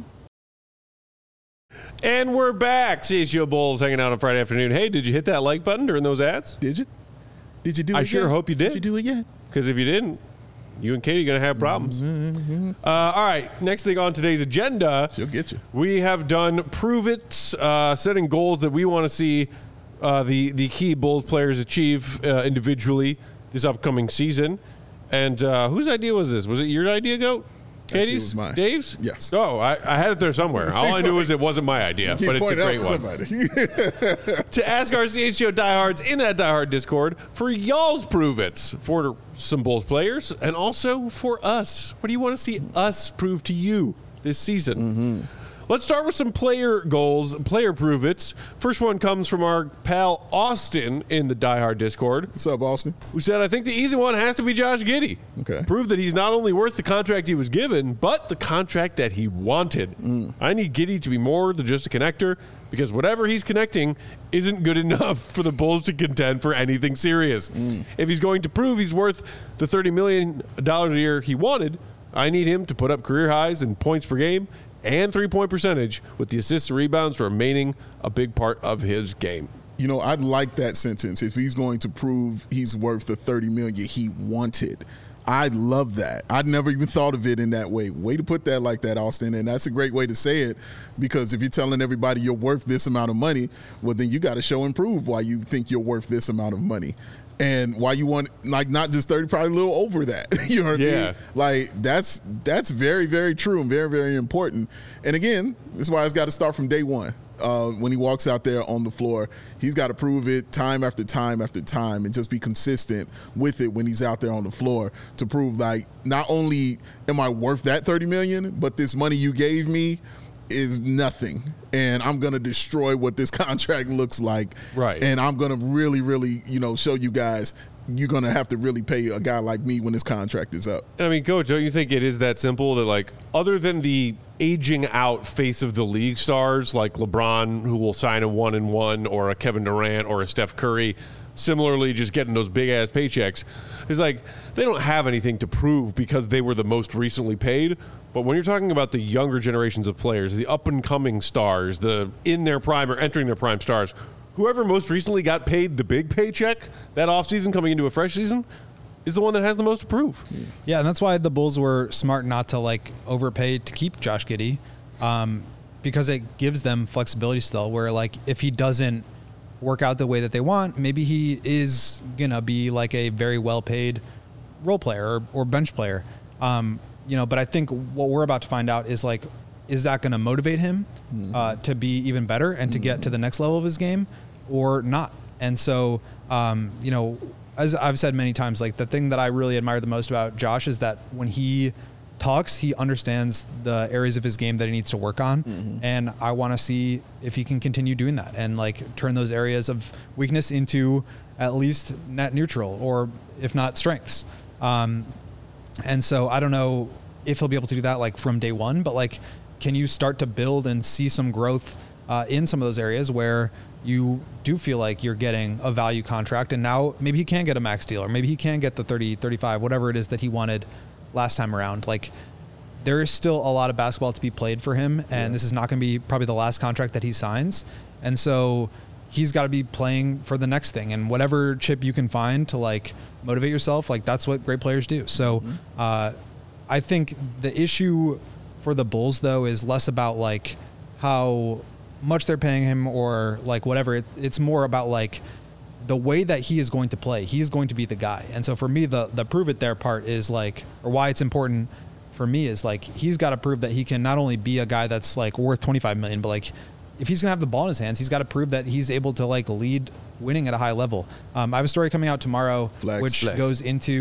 And we're back. CSU Bulls hanging out on Friday afternoon. Hey, did you hit that like button during those ads? Did you? Did you do it I sure yet? hope you did. Did you do it yet? Because if you didn't, you and Katie are going to have problems. All right, next thing on today's agenda. She'll get you. We have done Prove It, setting goals that we want to see the key Bulls players achieve individually this upcoming season. And whose idea was this? Was it your idea, Goat? Katie's? It was mine. Dave's? Yes. Oh, I had it there somewhere. All I knew was it wasn't my idea, but it's a great one. To ask our CHGO diehards in that diehard Discord for y'all's Prove It's for some Bulls players and also for us. What do you want to see us prove to you this season? Let's start with some player goals, player Prove It's. First one comes from our pal Austin in the diehard Discord. What's up, Austin? Who said, I think the easy one has to be Josh Giddey. Okay. Prove that he's not only worth the contract he was given, but the contract that he wanted. I need Giddey to be more than just a connector because whatever he's connecting isn't good enough for the Bulls to contend for anything serious. If he's going to prove he's worth the $30 million a year he wanted, I need him to put up career highs in points per game and three-point percentage, with the assists and rebounds remaining a big part of his game. You know, I'd like that sentence. If he's going to prove he's worth the $30 million he wanted, I'd love that. I'd never even thought of it in that way. Way to put that like that, Austin. And that's a great way to say it, because if you're telling everybody you're worth this amount of money, well, then you got to show and prove why you think you're worth this amount of money. And why you want, like, not just 30, probably a little over that. You know what I mean? Like, that's very, very true and very, very important. And again, this is why it's got to start from day one. When he walks out there on the floor, he's got to prove it time after time after time and just be consistent with it when he's out there on the floor to prove, like, not only am I worth that $30 million, but this money you gave me is nothing, and I'm going to destroy what this contract looks like. Right. And I'm going to really, really, show you guys you're going to have to really pay a guy like me when this contract is up. I mean, Coach, don't you think it is that simple that, like, other than the aging out face of the league stars like LeBron, who will sign a 1-and-1, or a Kevin Durant or a Steph Curry, similarly just getting those big-ass paychecks, it's like they don't have anything to prove because they were the most recently paid. But when you're talking about the younger generations of players, the up-and-coming stars, the in their prime or entering their prime stars, whoever most recently got paid the big paycheck that offseason coming into a fresh season is the one that has the most to prove. Yeah, and that's why the Bulls were smart not to, like, overpay to keep Josh Giddey, because it gives them flexibility still, where, like, if he doesn't work out the way that they want, maybe he is going to be, like, a very well-paid role player or bench player. But I think what we're about to find out is, like, is that going to motivate him to be even better and to get to the next level of his game or not? And so, as I've said many times, like, the thing that I really admire the most about Josh is that when he talks, he understands the areas of his game that he needs to work on. And I want to see if he can continue doing that and, like, turn those areas of weakness into at least net neutral, or if not strengths. And so I don't know if he'll be able to do that, like, from day one, but, like, can you start to build and see some growth in some of those areas where you do feel like you're getting a value contract, and now maybe he can get a max deal, or maybe he can get the 30, 35, whatever it is that he wanted last time around. Like, there is still a lot of basketball to be played for him, and this is not going to be probably the last contract that he signs. And so he's got to be playing for the next thing, and whatever chip you can find to, like, motivate yourself, like, that's what great players do. So I think the issue for the Bulls, though, is less about, like, how much they're paying him or, like, whatever. It's more about, like, the way that he is going to play. He is going to be the guy. And so for me, the prove it there part is, like, or why it's important for me is, like, he's got to prove that he can not only be a guy that's, like, worth $25 million, but, like, if he's gonna have the ball in his hands, he's got to prove that he's able to, like, lead winning at a high level. I have a story coming out tomorrow, which goes into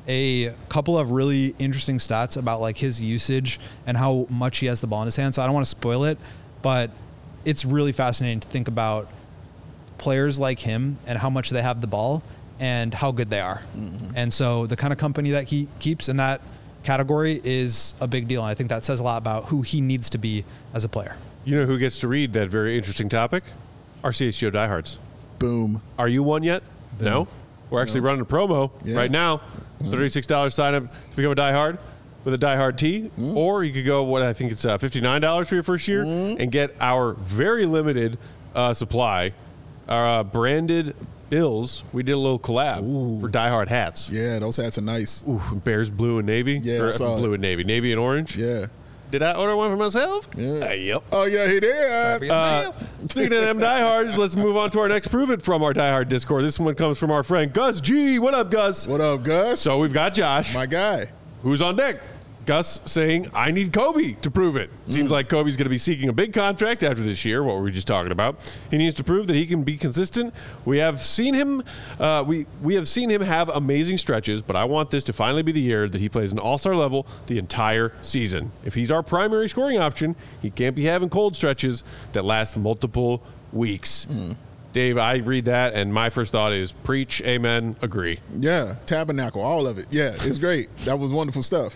a couple of really interesting stats about like his usage and how much he has the ball in his hand. So I don't want to spoil it, but it's really fascinating to think about players like him and how much they have the ball and how good they are. And so the kind of company that he keeps in that category is a big deal. And I think that says a lot about who he needs to be as a player. You know who gets to read that very interesting topic? Our CHGO diehards. Boom. Are you one yet? Boom. No? We're actually running a promo right now. $36 sign up to become a diehard with a diehard tee. Or you could go, what I think it's $59 for your first year and get our very limited supply, our branded Bills. We did a little collab for diehard hats. Yeah, those hats are nice. Ooh, Bears blue and navy. Yeah, blue and navy. Navy and orange. Yeah. Did I order one for myself? Yeah. Yep. Oh, yeah, he did. Speaking of them diehards, let's move on to our next Prove It from our diehard Discord. This one comes from our friend Gus G. What up, Gus? What up, Gus? So we've got Josh. My guy. Who's on deck? Gus saying, I need Kobe to prove it. Seems like Kobe's going to be seeking a big contract after this year, what were we just talking about. He needs to prove that he can be consistent. We have seen him we have seen him have amazing stretches, but I want this to finally be the year that he plays an all-star level the entire season. If he's our primary scoring option, he can't be having cold stretches that last multiple weeks. Dave, I read that, and my first thought is preach, amen, agree. Yeah, tabernacle, all of it. Yeah, it's great. That was wonderful stuff.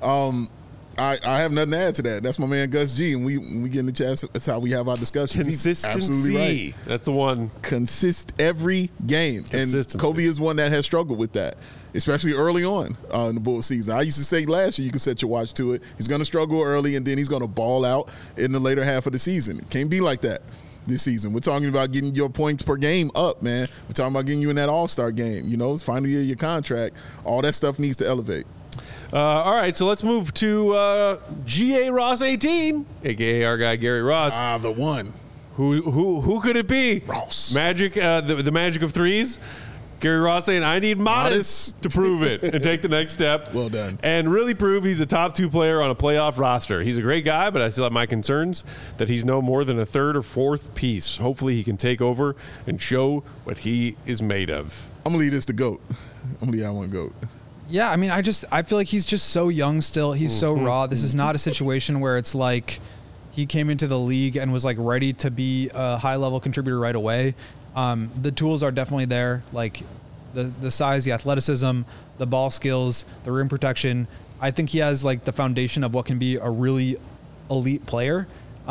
I have nothing to add to that. That's my man Gus G, and we get in the chat. That's how we have our discussions. Consistency. He's absolutely right. That's the one. Consist every game, and Kobe is one that has struggled with that, especially early on in the Bulls season. I used to say last year you can set your watch to it. He's going to struggle early, and then he's going to ball out in the later half of the season. It can't be like that this season. We're talking about getting your points per game up, man. We're talking about getting you in that all-star game. You know, it's final year of your contract. All that stuff needs to elevate. All right, so let's move to G.A. Ross 18, a.k.a. our guy Gary Ross. The one. Who could it be? Ross. Magic, the magic of threes. Gary Ross saying, I need modest to prove it and take the next step. Well done. And really prove he's a top 2 player on a playoff roster. He's a great guy, but I still have my concerns that he's no more than a third or fourth piece. Hopefully he can take over and show what he is made of. I'm going to leave this to GOAT. I'm going to leave that one GOAT. Yeah, I mean, I feel like he's just so young still. He's so raw. This is not a situation where it's like he came into the league and was like ready to be a high-level contributor right away. The tools are definitely there, like the size, the athleticism, the ball skills, the rim protection. I think he has like the foundation of what can be a really elite player,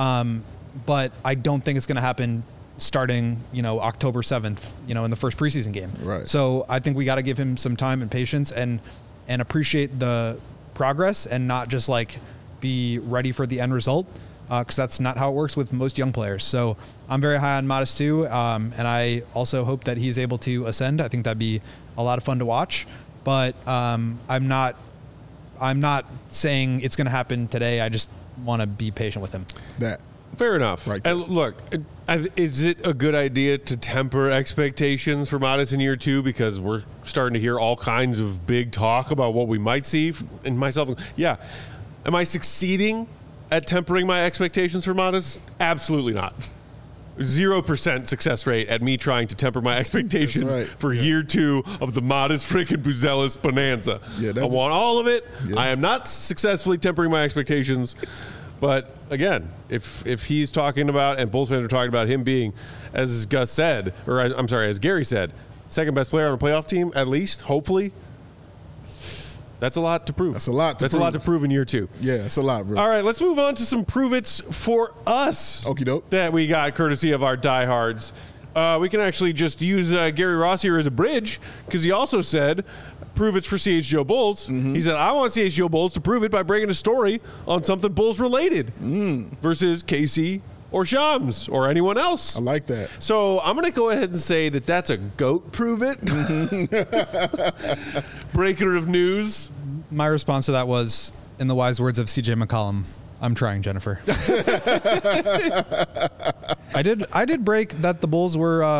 but I don't think it's going to happen starting, October 7th, in the first preseason game. Right. So I think we got to give him some time and patience and appreciate the progress and not just like be ready for the end result, because that's not how it works with most young players. So I'm very high on Modest too, and I also hope that he's able to ascend. I think that'd be a lot of fun to watch, but I'm not saying it's going to happen today. I just want to be patient with him. Fair enough. Right. And look, is it a good idea to temper expectations for Modest in year 2, because we're starting to hear all kinds of big talk about what we might see? And myself, yeah. Am I succeeding at tempering my expectations for Modest? Absolutely not. 0% success rate at me trying to temper my expectations for year 2 of the Modest freaking Buzelis bonanza. I want all of it. Yeah. I am not successfully tempering my expectations. But again, if he's talking about, and Bulls fans are talking about him being, as Gus said, or I'm sorry, as Gary said, second best player on a playoff team, at least, hopefully, that's a lot to prove. That's a lot to prove in year 2. Yeah, it's a lot, bro. All right, let's move on to some prove-its for us. Okie doke. That we got courtesy of our diehards. We can actually just use Gary Ross here as a bridge, because he also said, prove it's for CHGO Bulls. He said, I want CHGO Bulls to prove it by bringing a story on something Bulls related versus Casey or Shams or anyone else. I like that. So I'm going to go ahead and say that that's a GOAT prove it. Breaker of news. My response to that was, in the wise words of CJ McCollum, I'm trying, Jennifer. I did break that the Bulls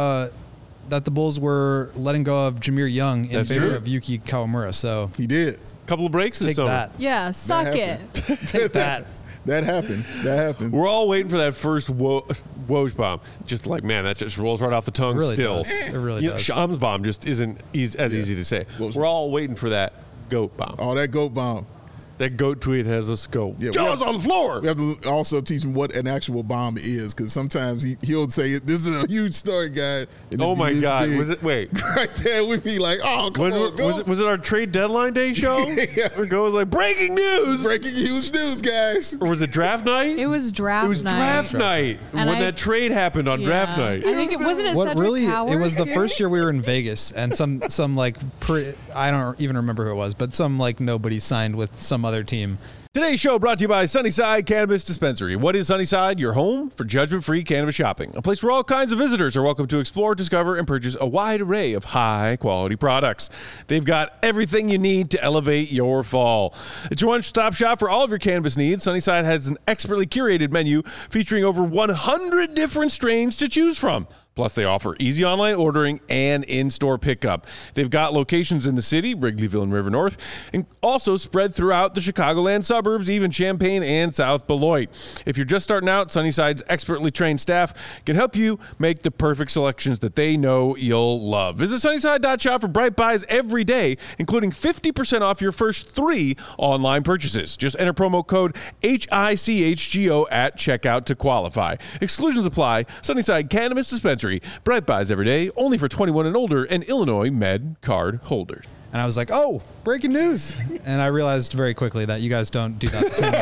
were letting go of Jameer Young in favor of Yuki Kawamura. So he did. Couple of breaks this take summer. That. Yeah, suck it. Take that. That happened. We're all waiting for that first Woj bomb. Just like, man, that just rolls right off the tongue. It really still. does. It really does. Shams bomb just isn't as easy to say. Woj. We're all waiting for that. goat bomb. Oh, that goat bomb. That goat tweet has a scope. Yeah, Jaws on the floor. We have to also teach him what an actual bomb is, because sometimes he'll say, "This is a huge story, guys." Oh my God! Big. Was it? Wait. Right there, we'd be like, "Oh, come on, go." Was it our trade deadline day show? Yeah. Or go like breaking news. Breaking huge news, guys. Or was it draft night? It was draft night. It was draft night And when that trade happened on draft night. I think it wasn't it What Cedric really? Howard? It was the first year we were in Vegas, and some like I don't even remember who it was, but some like nobody signed with some other team. Today's show brought to you by Sunnyside Cannabis Dispensary. What is Sunnyside? Your home for judgment-free cannabis shopping. A place where all kinds of visitors are welcome to explore, discover, and purchase a wide array of high-quality products. They've got everything you need to elevate your fall. It's your one-stop shop for all of your cannabis needs. Sunnyside has an expertly curated menu featuring over 100 different strains to choose from. Plus, they offer easy online ordering and in-store pickup. They've got locations in the city, Wrigleyville and River North, and also spread throughout the Chicagoland suburbs, even Champaign and South Beloit. If you're just starting out, Sunnyside's expertly trained staff can help you make the perfect selections that they know you'll love. Visit Sunnyside.shop for Bright Buys every day, including 50% off your first 3 online purchases. Just enter promo code HICHGO at checkout to qualify. Exclusions apply. Sunnyside Cannabis Dispensary. Bright Buys every day, only for 21 and older and Illinois Med card holders. And I was like, "Oh, breaking news!" And I realized very quickly that you guys don't do that the same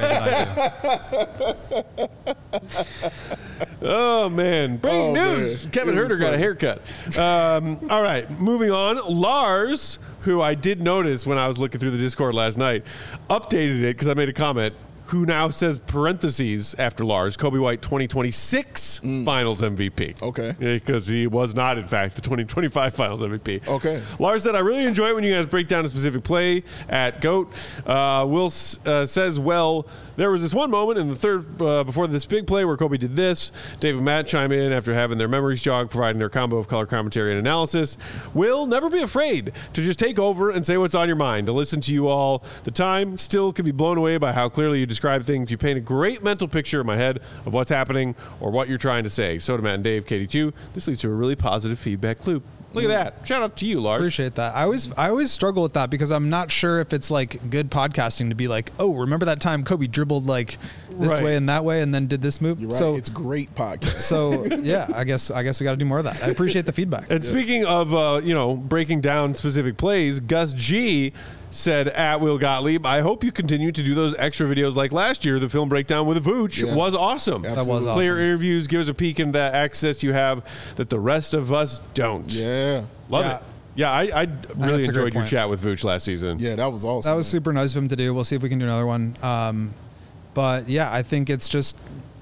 way that I do. Oh, man. Breaking news. Man. Kevin Herter got a haircut. All right, moving on. Lars, who I did notice when I was looking through the Discord last night, updated it because I made a comment, who now says parentheses after Lars, Kobe White 2026 Finals MVP. Okay. Because he was not, in fact, the 2025 Finals MVP. Okay. Lars said, I really enjoy it when you guys break down a specific play at GOAT. Will says, well, there was this one moment in the third before this big play where Kobe did this. Dave and Matt chime in after having their memories jog, providing their combo of color commentary and analysis. Will, never be afraid to just take over and say what's on your mind. To listen to you all the time, still can be blown away by how clearly you describe things. You paint a great mental picture in my head of what's happening or what you're trying to say. Soda Matt and Dave, KD2. This leads to a really positive feedback loop. Look at that. Shout out to you, Lars. Appreciate that. I always struggle with that because I'm not sure if it's like good podcasting to be like, "Oh, remember that time Kobe dribbled like this way and that way and then did this move?" You're right. So it's great podcast. So yeah, I guess we got to do more of that. I appreciate the feedback. And speaking of breaking down specific plays, Gus G said at Will Gottlieb, I hope you continue to do those extra videos like last year. The film breakdown with Vooch was awesome. Absolutely. That was awesome. Player interviews, give us a peek into that access you have that the rest of us don't. Yeah. Love it. Yeah, I really That's a great enjoyed your point. chat with Vooch last season. Yeah, that was awesome. That was super nice of him to do. We'll see if we can do another one. But yeah, I think it's just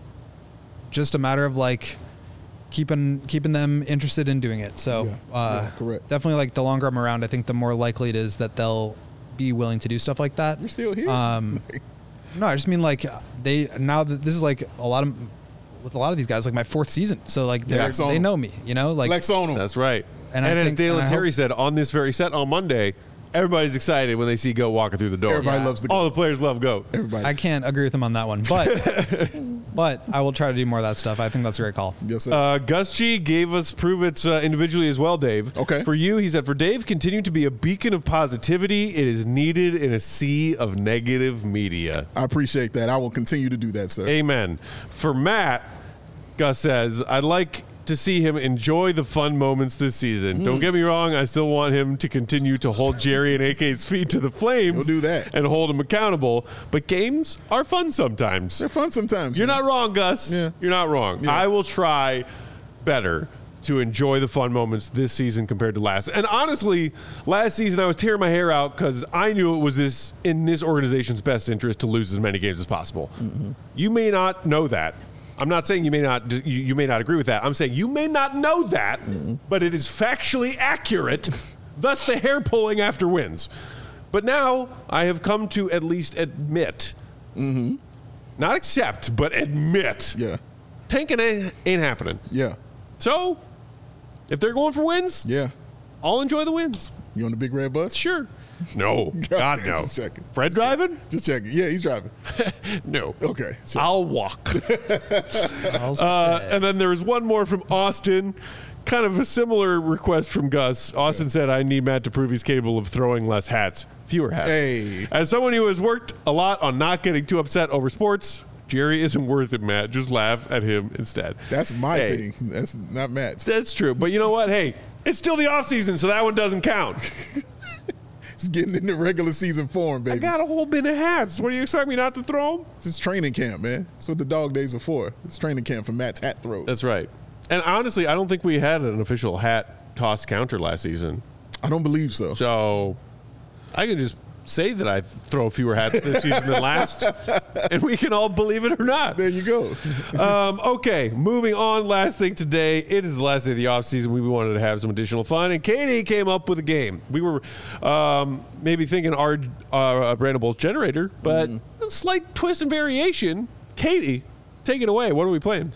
a matter of like keeping them interested in doing it. So correct. Definitely, like the longer I'm around, I think the more likely it is that they'll be willing to do stuff like that. You're still here. No, I just mean like now that this is like with a lot of these guys, like my 4th season. So like they know me, like Lex on them. That's right. And And, I as think- Dale and and I Terry hope- said on this very set on Monday, everybody's excited when they see Goat walking through the door. Everybody loves the All Goat. the players love Goat. Everybody. I can't agree with him on that one, but I will try to do more of that stuff. I think that's a great call. Yes, sir. Gus G gave us prove it's individually as well, Dave. Okay. For you, he said, for Dave, continue to be a beacon of positivity. It is needed in a sea of negative media. I appreciate that. I will continue to do that, sir. Amen. For Matt, Gus says, I'd like to see him enjoy the fun moments this season. Don't get me wrong, I still want him to continue to hold Jerry and AK's feet to the flames. He'll do that. And hold him accountable. But games are fun sometimes. They're fun sometimes. You're man. not wrong, Gus. Yeah. You're not wrong. Yeah. I will try better to enjoy the fun moments this season compared to last. And honestly, last season I was tearing my hair out because I knew it was in this organization's best interest to lose as many games as possible. Mm-hmm. You may not know that. I'm not saying you may not agree with that. I'm saying you may not know that, but it is factually accurate. Thus, the hair pulling after wins. But now I have come to at least admit, not accept, but admit, Yeah. tanking ain't happening. Yeah. So, if they're going for wins, Yeah. I'll enjoy the wins. You on the big red bus? Sure. No, God no. Just checking. Fred driving? Just checking. Yeah, he's driving. No. Okay. So, I'll walk. I'll stay. And then there was one more from Austin. kind of a similar request from Gus. Austin said, I need Matt to prove he's capable of throwing less hats. Fewer hats. Hey. As someone who has worked a lot on not getting too upset over sports, Jerry isn't worth it, Matt. Just laugh at him instead. That's my thing. That's not Matt's. That's true. But you know what? Hey, it's still the offseason, so that one doesn't count. It's getting in the regular season form, baby. I got a whole bin of hats. What do you expect me not to throw them? This is training camp, man. That's what the dog days are for. It's training camp for Matt's hat throws. That's right. And honestly, I don't think we had an official hat toss counter last season. I don't believe so. So I can just say that I throw fewer hats this season than last, and we can all believe it or not. There you go. Okay, moving on. Last thing today. It is the last day of the offseason. We wanted to have some additional fun, and Katie came up with a game. We were maybe thinking our Brandon Bulls generator, but a slight twist and variation. Katie, take it away. What are we playing?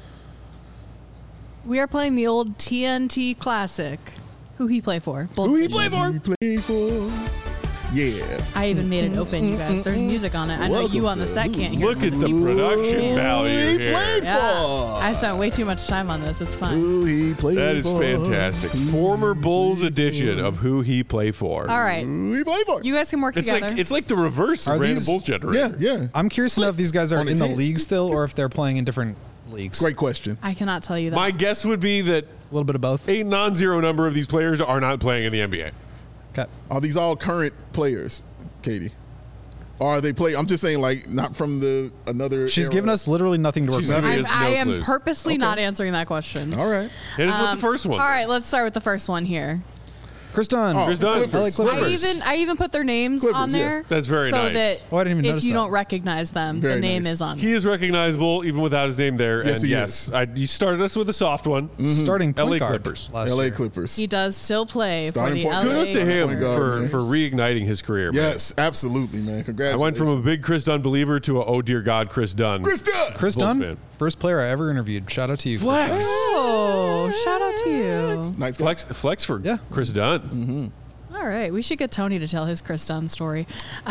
We are playing the old TNT classic. Who he play for? Bulls Who he Edition. play for? Yeah. I even made it open, you guys. There's music on it. I know you on the set can't hear Look it. at the production value here. Yeah. I spent way too much time on this. It's fine. Who he played That is for. fantastic. Former Bulls edition of Who He Play For. All right. Who he played for. You guys can work together. It's like the reverse of Are Brandon these- Bulls generator. Yeah. I'm curious to know if these guys are On in the the team. league still or if they're playing in different leagues. Great question. I cannot tell you that. My guess would be that A little bit of both. a non-zero number of these players are not playing in the NBA. Okay. Are these all current players, Katie? Or are they play? I'm just saying, like, not from another. She's era. given us literally nothing to work She's with. giving us I no am clues. purposely not answering that question. All right. Hit us with the first one. All right, let's start with the first one here. Chris Dunn. Oh, Chris Dunn. Clippers. LA Clippers. I even put their names Clippers, on there. yeah. That's very so nice. that Oh, I didn't even if notice you that. don't recognize them, Very the name nice. is on. He is recognizable even without his name there. Yes, and he yes, you started us with a soft one. Starting point LA guard Clippers. last LA year. Clippers. He does still play Starting for the point LA guard. Kudos to him Point guard, for man. reigniting his career. man. Yes, absolutely, man. I Congratulations. went from a big Chris Dunn believer to a oh dear God Chris Dunn. Chris Dunn. Chris Bulls Dunn, fan. first player I ever interviewed. Shout out to you. Flex. Oh, shout out to you. Nice guy. Flex for Yeah. Chris Dunn. All right, we should get Tony to tell his Chris Dunn story.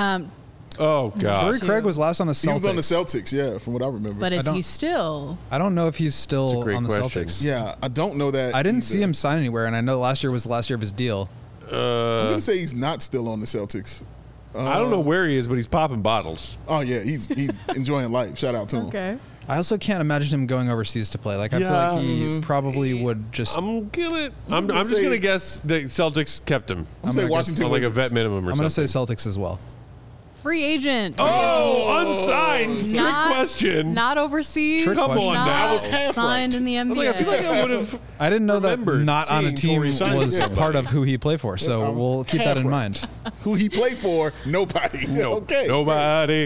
Oh God. Torrey Craig was last on the Celtics. He was on the Celtics, yeah, from what I remember. But is don't- he still? I don't know if he's That's still a great on the question. Celtics. yeah, I don't know that. I didn't either. see him sign anywhere, and I know last year was the last year of his deal. I'm gonna say he's not still on the Celtics. I don't know where he is, but he's popping bottles. Oh yeah, he's enjoying life. Shout out to him. Okay. I also can't imagine him going overseas to play. Like I feel Yeah. like he probably would just. I'm gonna just say- gonna guess the Celtics kept him I'm saying gonna Washington on like a Wizards. vet minimum or I'm something. gonna say Celtics as well. Free agent. Oh, unsigned. Trick Not- question. Not overseas. Trick Come on, question. Not Zach. I was half signed right. in the I was NBA. like, I feel like I would have. I didn't know that Remembered not on a seeing team Torrey sign was somebody. part of who he played for. So I was we'll keep that half in right. mind. Who he played for? Nobody. No, okay. nobody.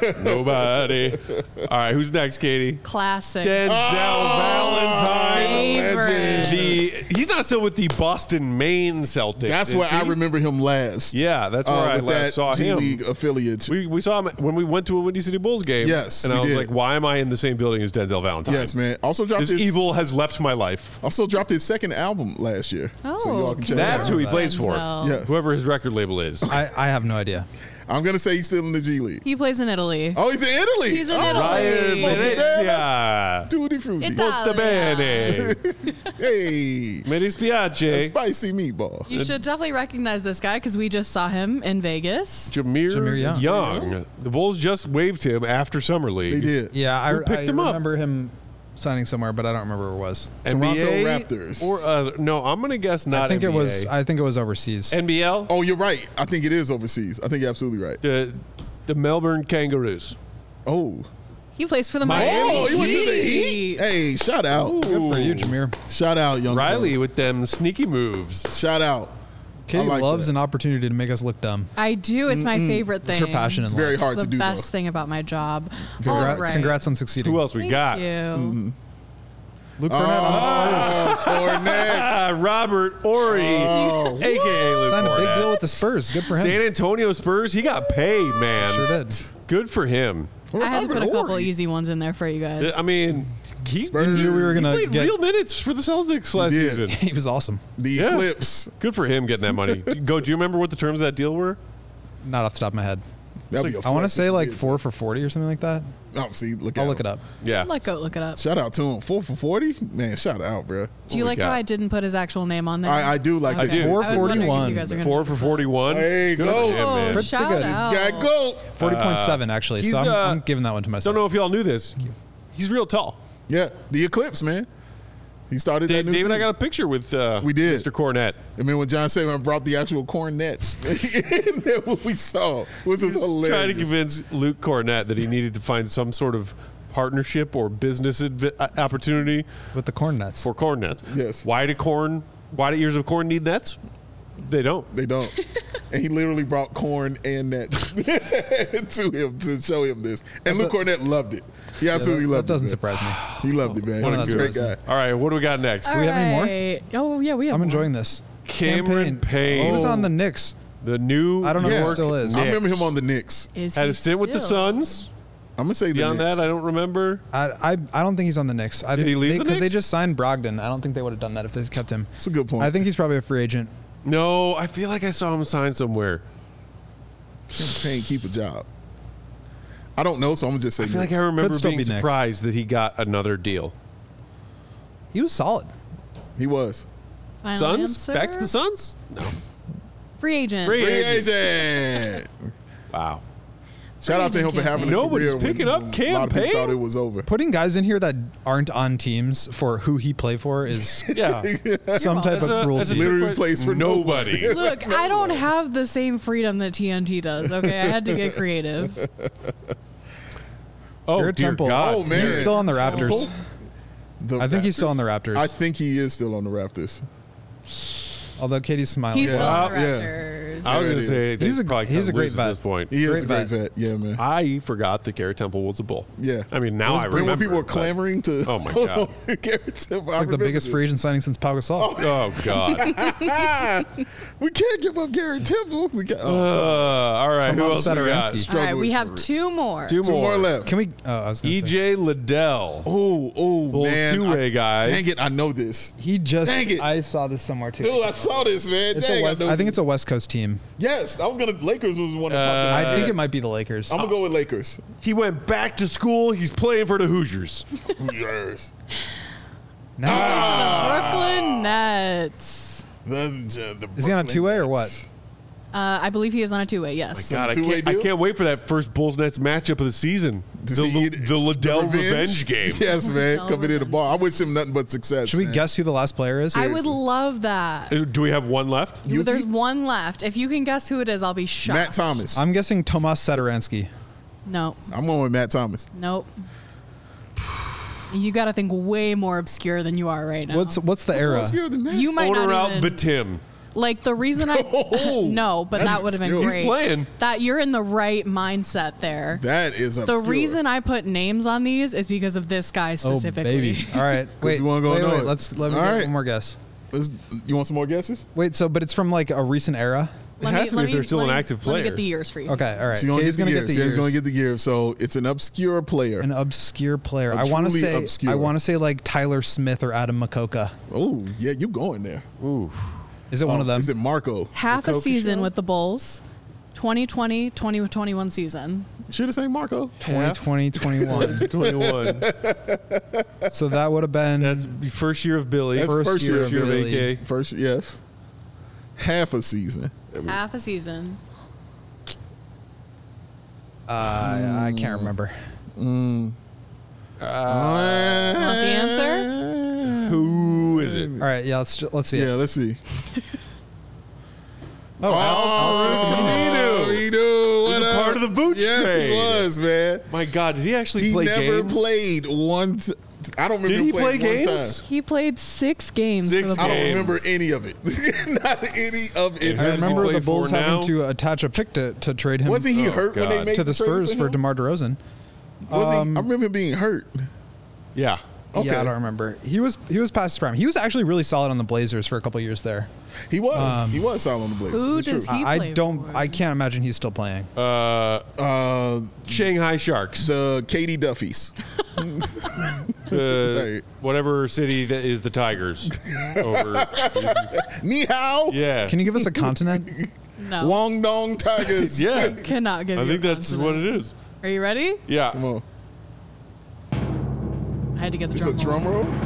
Nobody. All right, who's next, Katie? Classic. Denzel Valentine. Favorite. He's not still with the Boston, Maine Celtics. That's is where I he? remember him last. Yeah, that's where I with last that saw G him. League affiliate. We saw him when we went to a Windy City Bulls game. Yes, and we I was did. like, why am I in the same building as Denzel Valentine? Yes, man. Also dropped This his evil has left my life. Also dropped his second album last year. Oh, so y'all can check That's that who out. he plays for. Denzel. Yeah. Whoever his record label is. I have no idea. I'm gonna say he's still in the G League. He plays in Italy. Oh, he's in Italy. He's in Oh, Italy. Ryan Yeah. Venezia. Tutti frutti. Molto bene. Hey, Mi dispiace. spicy meatball. You should definitely recognize this guy because we just saw him in Vegas. Jameer Young. Young. The Bulls just waived him after Summer League. They did. Yeah, Who picked him up? remember him signing somewhere, but I don't remember where it was. Toronto NBA Raptors. Or no, I'm gonna guess not. I think NBA. it was overseas. NBL. Oh, you're right. I think it is overseas. I think you're absolutely right. The Melbourne Kangaroos. Oh. He plays for the Miami Miami Oh, he went to the Heat. Heat. Hey, shout out. Good for you, Jameer. Shout out, young Riley fella. with them sneaky moves. Shout out. Katie I like loves that. an opportunity to make us look dumb. I do. It's my favorite thing. It's her passion in It's life. very hard It's to the do, best though. thing about my job. Congrats, All right. congrats on succeeding. Who else we Thank got? you. Luke Cornett on the Spurs. Cornette. Robert Ory, Oh. aka Luke Signed a big Cornett. deal with the Spurs. Good for him. San Antonio Spurs. He got paid, man. Sure did. Good for him. I had to put a Robert couple Horry. easy ones in there for you guys. I mean, he knew we were gonna played get- real minutes for the Celtics last did. season. He was awesome. The Yeah. Eclipse. Good for him getting that money. Do you remember what the terms of that deal were? Not off the top of my head. That'd be a I want to flex say if he like did. 4 for 40 or something like that. Oh, see, I'll look it up. Yeah. Let Goat look it up. Shout out to him. 4 for 40? Man, shout out, bro. Do you we like got? how I didn't put his actual name on there? I do like I that. do. 4 I was wondering if 41. you guys are gonna 4 notice for that. 41. There you Good go. for him, man. Pretty Shout good. out. Guy go. 40.7 actually. he's, So I'm giving that one to myself. Don't know if y'all knew this. He's real tall. Yeah, the Eclipse, man. He started that new Dave and I thing. got a picture with We did. Mr. Cornette. I mean, when John Saban brought the actual cornets, that's what we saw, which was hilarious. Trying to convince Luke Cornette that he needed to find some sort of partnership or business opportunity With the corn nuts. for corn nets. Yes. Why do ears of corn need nets? They don't. They don't. And he literally brought corn and nets to him to show him this. And Luke Cornette loved it. He absolutely that loved it. doesn't man. surprise me. He loved it, man. What He's a a great guy. surprise All right, what do we got next? we have any more? Alright. Oh, yeah, we have I'm more. enjoying this. Cameron Payne. He was on the Knicks. The New I don't know if he York still is. I remember Knicks. him on the Knicks. Is Had he a stint with the still? Suns. I'm gonna say the Beyond Knicks. that, I don't remember. I don't think he's on the Knicks. Did he leave the Because they Knicks? just signed Brogdon. I don't think they would have done that if they kept him. That's a good point. I think he's probably a free agent. No, I feel like I saw him sign somewhere. Payne keep a job. I don't know, so I'm gonna just say I feel like I Knicks. remember Could still being be Knicks. surprised that he got another deal. He was solid. He was. Final Suns? answer? Back to the Suns? No. Free agent. Free Free agent. agent. Wow. Shout out to him for having a Nobody's career when picking up a lot Cam of people Payne? thought it was over. Putting guys in here that aren't on teams for who he played for is Yeah. some type That's of a cruelty. Literally plays for nobody. Look, I don't have the same freedom that TNT does. Okay, I had to get creative. Oh, Garrett dear Temple. God. Oh, man. He's still on the Raptors. The I think he's Raptors? still on the Raptors. I think he is still on the Raptors. Although Katie's smiling. He's still on the Yeah. Raptors. I was There going it to say is. they He's a- probably he's kinda a great lose at vet. this point. He is Great a great vet. vet. Yeah, man. I forgot that Garrett Temple was a Bull. Yeah. I mean, now I Remember remember. when people were but- clamoring to. Oh, my God. Garrett Temple. It's like the biggest free agent signing since Pau Gasol. Oh, God. We can't give up Garrett Temple. We got All right. Who Tomas else we got? Satoransky. All right, we Struggle have is two more. Two two more left. Can we? Oh, I was going to say. EJ Liddell. Oh, Bulls man. two-way guy. Dang it, I know this. He just. Dang it. I saw this somewhere too. Dude, I saw this, man. It's Dang, a West, know I think this. it's a West Coast team. Yes, I was gonna. Lakers was one of my. I think it might be the Lakers. I'm gonna go with Lakers. He went back to school. He's playing for the Hoosiers. Yes. Nice. Brooklyn Nets. Is he on a two-way or what? I believe he is on a two-way. Yes. God, I Two-way can't, deal? I can't wait for that first Bulls Nets matchup of the season. To The, see the Liddell revenge game. Yes, man. Liddell Coming in the revenge. ball. I wish him nothing but success. Should we man. guess who the last player is? I would love that. Do we have one left? Yuki? There's one left. If you can guess who it is, I'll be shocked. Matt Thomas. I'm guessing Tomas Satoransky. No. I'm going with Matt Thomas. Nope. You got to think way more obscure than you are right now. What's the era? Obscure than Matt. You might Owner not out even Batim. like the reason I no, but That's that would have been still- He's great. playing. That you're in the right mindset there. That is The obscure. reason I put names on these is because of this guy Oh specifically. baby! All right, wait, you wanna go wait, know wait. it. Let me All get right. one more guess. You want some more guesses? Wait, but it's from like a recent era. It has to be if they're still an active Let me player. get the years for you. Okay, all right. So you're Katie's gonna gonna get get the the years. years. Gonna get the years. So it's an obscure player. An obscure player. A I want to truly say. obscure. I want to say like Tyler Smith or Adam Makoka. Oh yeah, you going there? Ooh. Is it one of them? Is it Marco? Half a Coca season show? with the Bulls. 2020, 2021 season. Should have saying Marco. 2020, 21. 21. So that would have been. That's first year of Billy. That's first year of Billy. AK. First, yes. Half a season. Half a season. I can't remember. Want the answer? Who is it? All right, yeah. Let's see. Yeah, It. let's see. Camino. he knew. He's What a up? part of the Vooch Yes, trade. he was, man. My God, did he actually He play never games? played one. I don't remember Did him he playing play one games? time. He played 6 games Six for the I Bulls. don't games. remember any of it. Not any of it. I Who remember play the Bulls for having now? to attach a pick to trade him Wasn't he Oh, hurt when God. they made to the trade Spurs for him? DeMar DeRozan. Was he? I remember him being hurt. Yeah. Okay. Yeah, I don't remember. He was past his prime. He was actually really solid on the Blazers for a couple years there. He was. He was solid on the Blazers. Who It's does true. he I play don't. for? I can't imagine he's still playing. Shanghai Sharks. The Katie Duffys. Right. Whatever city that is the Tigers. Over. Ni hao. Yeah. Can you give us a continent? No. Wong Dong Tigers. Yeah. Cannot give I you think a that's what consonant. it is. Are you ready? Yeah. Come on. I had to get the It's a drum drum roll. roll.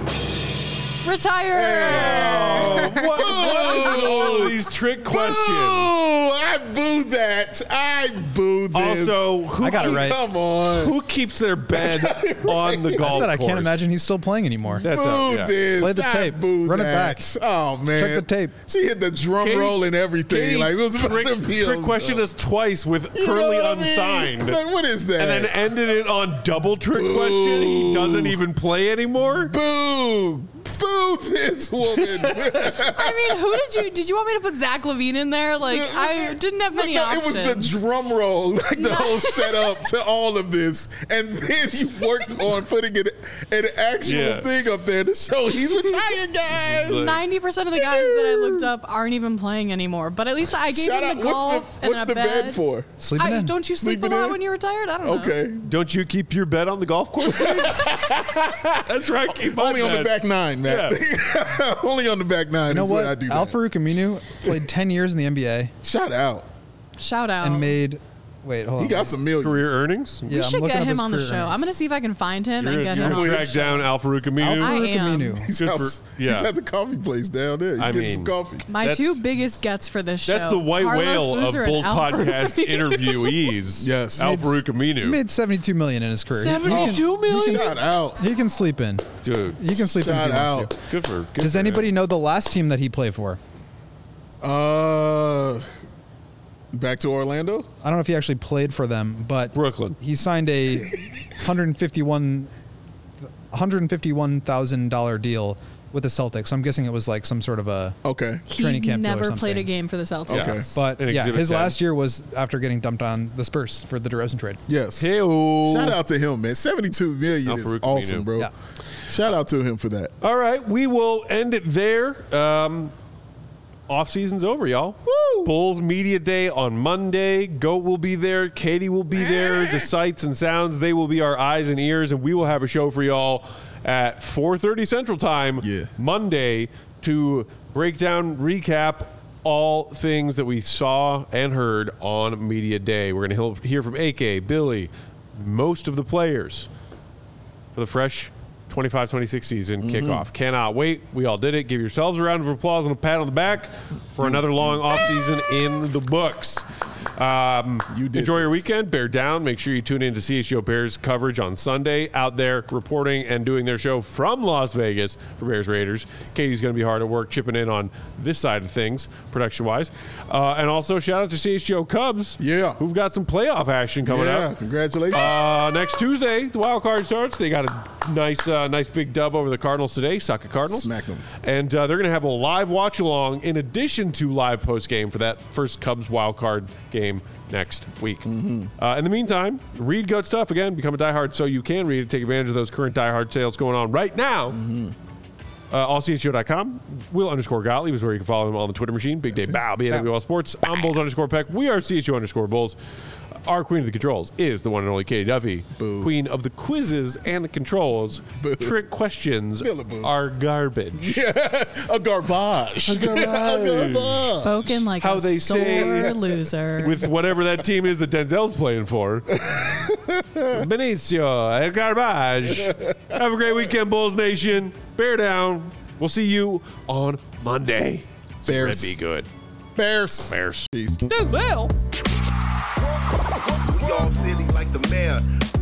Retire. What is with all of these trick questions? Boo! I boo that. I boo this. Also, who, I got it right. Come on. who keeps their bed on the golf I said I course? can't imagine he's still playing anymore. That's Boo yeah. this. Play the I tape. Boo Run it that. back. Oh man. Check the tape. She hit the drum Katie- roll and everything. Katie Like it was about trick, to be trick questioned us twice with You know currently what I mean? unsigned. Like, what is that? And then ended it on double trick Boo. question. He doesn't even play anymore. Boo! Boo this woman. I mean, did you want me to put Zach Levine in there? Like, I didn't have many No, options. it was the drum roll, like the whole setup to all of this, and then you worked on putting an actual thing up there to show he's retired, guys. 90% of the guys that I looked up aren't even playing anymore. But at least I gave Shout him out. the golf What's and the a bed. bed for? Sleeping in. Don't you sleep Sleeping a lot in? when you're retired? I don't know. Okay. Don't you keep your bed on the golf course? That's right. Keep my Only on the bed. back nine, Matt. Only on the back nine You know is what? when I do Al that. Farouk Aminu played 10 years in the NBA Shout out. Shout out. and made. Wait, hold on. He got some millions. Career earnings. Yeah, we I'm should looking get up him his on the career show. I'm earnings. going to see if I can find him and get You're him on gonna the track show. down Al Farouk Aminu. I Farouk am. Aminu. He's, Good out, for- yeah. he's at the coffee place down there. He's I getting mean, some coffee. My That's- two biggest gets for this show. That's the white Carlos whale of Boozer and Bulls Al Farouk podcast Aminu. interviewees. Yes. Al He Farouk He Aminu. made $72 million in his career. He can- 72 million? Shout out. He can sleep in. Dude, He can sleep in if Shout he wants out. to. good for. Good Does for anybody him. know the last team that he played for? Back to Orlando. I don't know if he actually played for them, but Brooklyn? he signed a $151,000 deal with the Celtics. I'm guessing it was like some sort of a Okay. training He camp deal or never played a something. game for the Celtics. Okay. But An yeah, Exhibit his 10. last year was after getting dumped on the Spurs for the DeRozan trade. Yes. Hey-o. Shout out to him, man. 72 million Al is Farouk awesome, Aminu. bro. Yeah. Shout out to him for that. All right, we will end it there. Off season's over, y'all. Woo! Bulls Media Day on Monday. Goat will be there. Katie will be there. The sights and sounds, they will be our eyes and ears, and we will have a show for y'all at 4:30 Central Time Monday to break down, recap all things that we saw and heard on Media Day. We're going to hear from AK, Billy, most of the players for the fresh 25-26 season kickoff. Cannot wait. We all did it. Give yourselves a round of applause and a pat on the back for another long offseason in the books. You did Enjoy your this. weekend. Bear down. Make sure you tune in to CHGO Bears coverage on Sunday. Out there reporting and doing their show from Las Vegas for Bears Raiders. Katie's going to be hard at work chipping in on this side of things, production-wise. And also, shout out to CHGO Cubs, who've got some playoff action coming up. Congratulations. Next Tuesday, the wild card starts. They got a nice big dub over the Cardinals today. Suck it, Cardinals. Smack them. And they're going to have a live watch along in addition to live post game for that first Cubs wild card game next week. In the meantime, read GOAT stuff again. Become a diehard so you can read it. Take advantage of those current diehard sales going on right now. AllCHGO.com. Will_Gottlieb is where you can follow him on the Twitter machine. Big Day Bow, BNWL Sports. I'm Bulls_Peck. We are CHGO_Bulls. Our queen of the controls is the one and only Katie Duffy. Boo. Queen of the quizzes and the controls. Boo. Trick questions Still a boo. are garbage. A garbage. A garbage. Spoken like How a they sore say loser. With whatever that team is that Denzel's playing for. Benicio, garbage. Have a great weekend, Bulls Nation. Bear down. We'll see you on Monday. Bears. Be good. Bears. Bears. Peace. Denzel. We all silly like the mayor.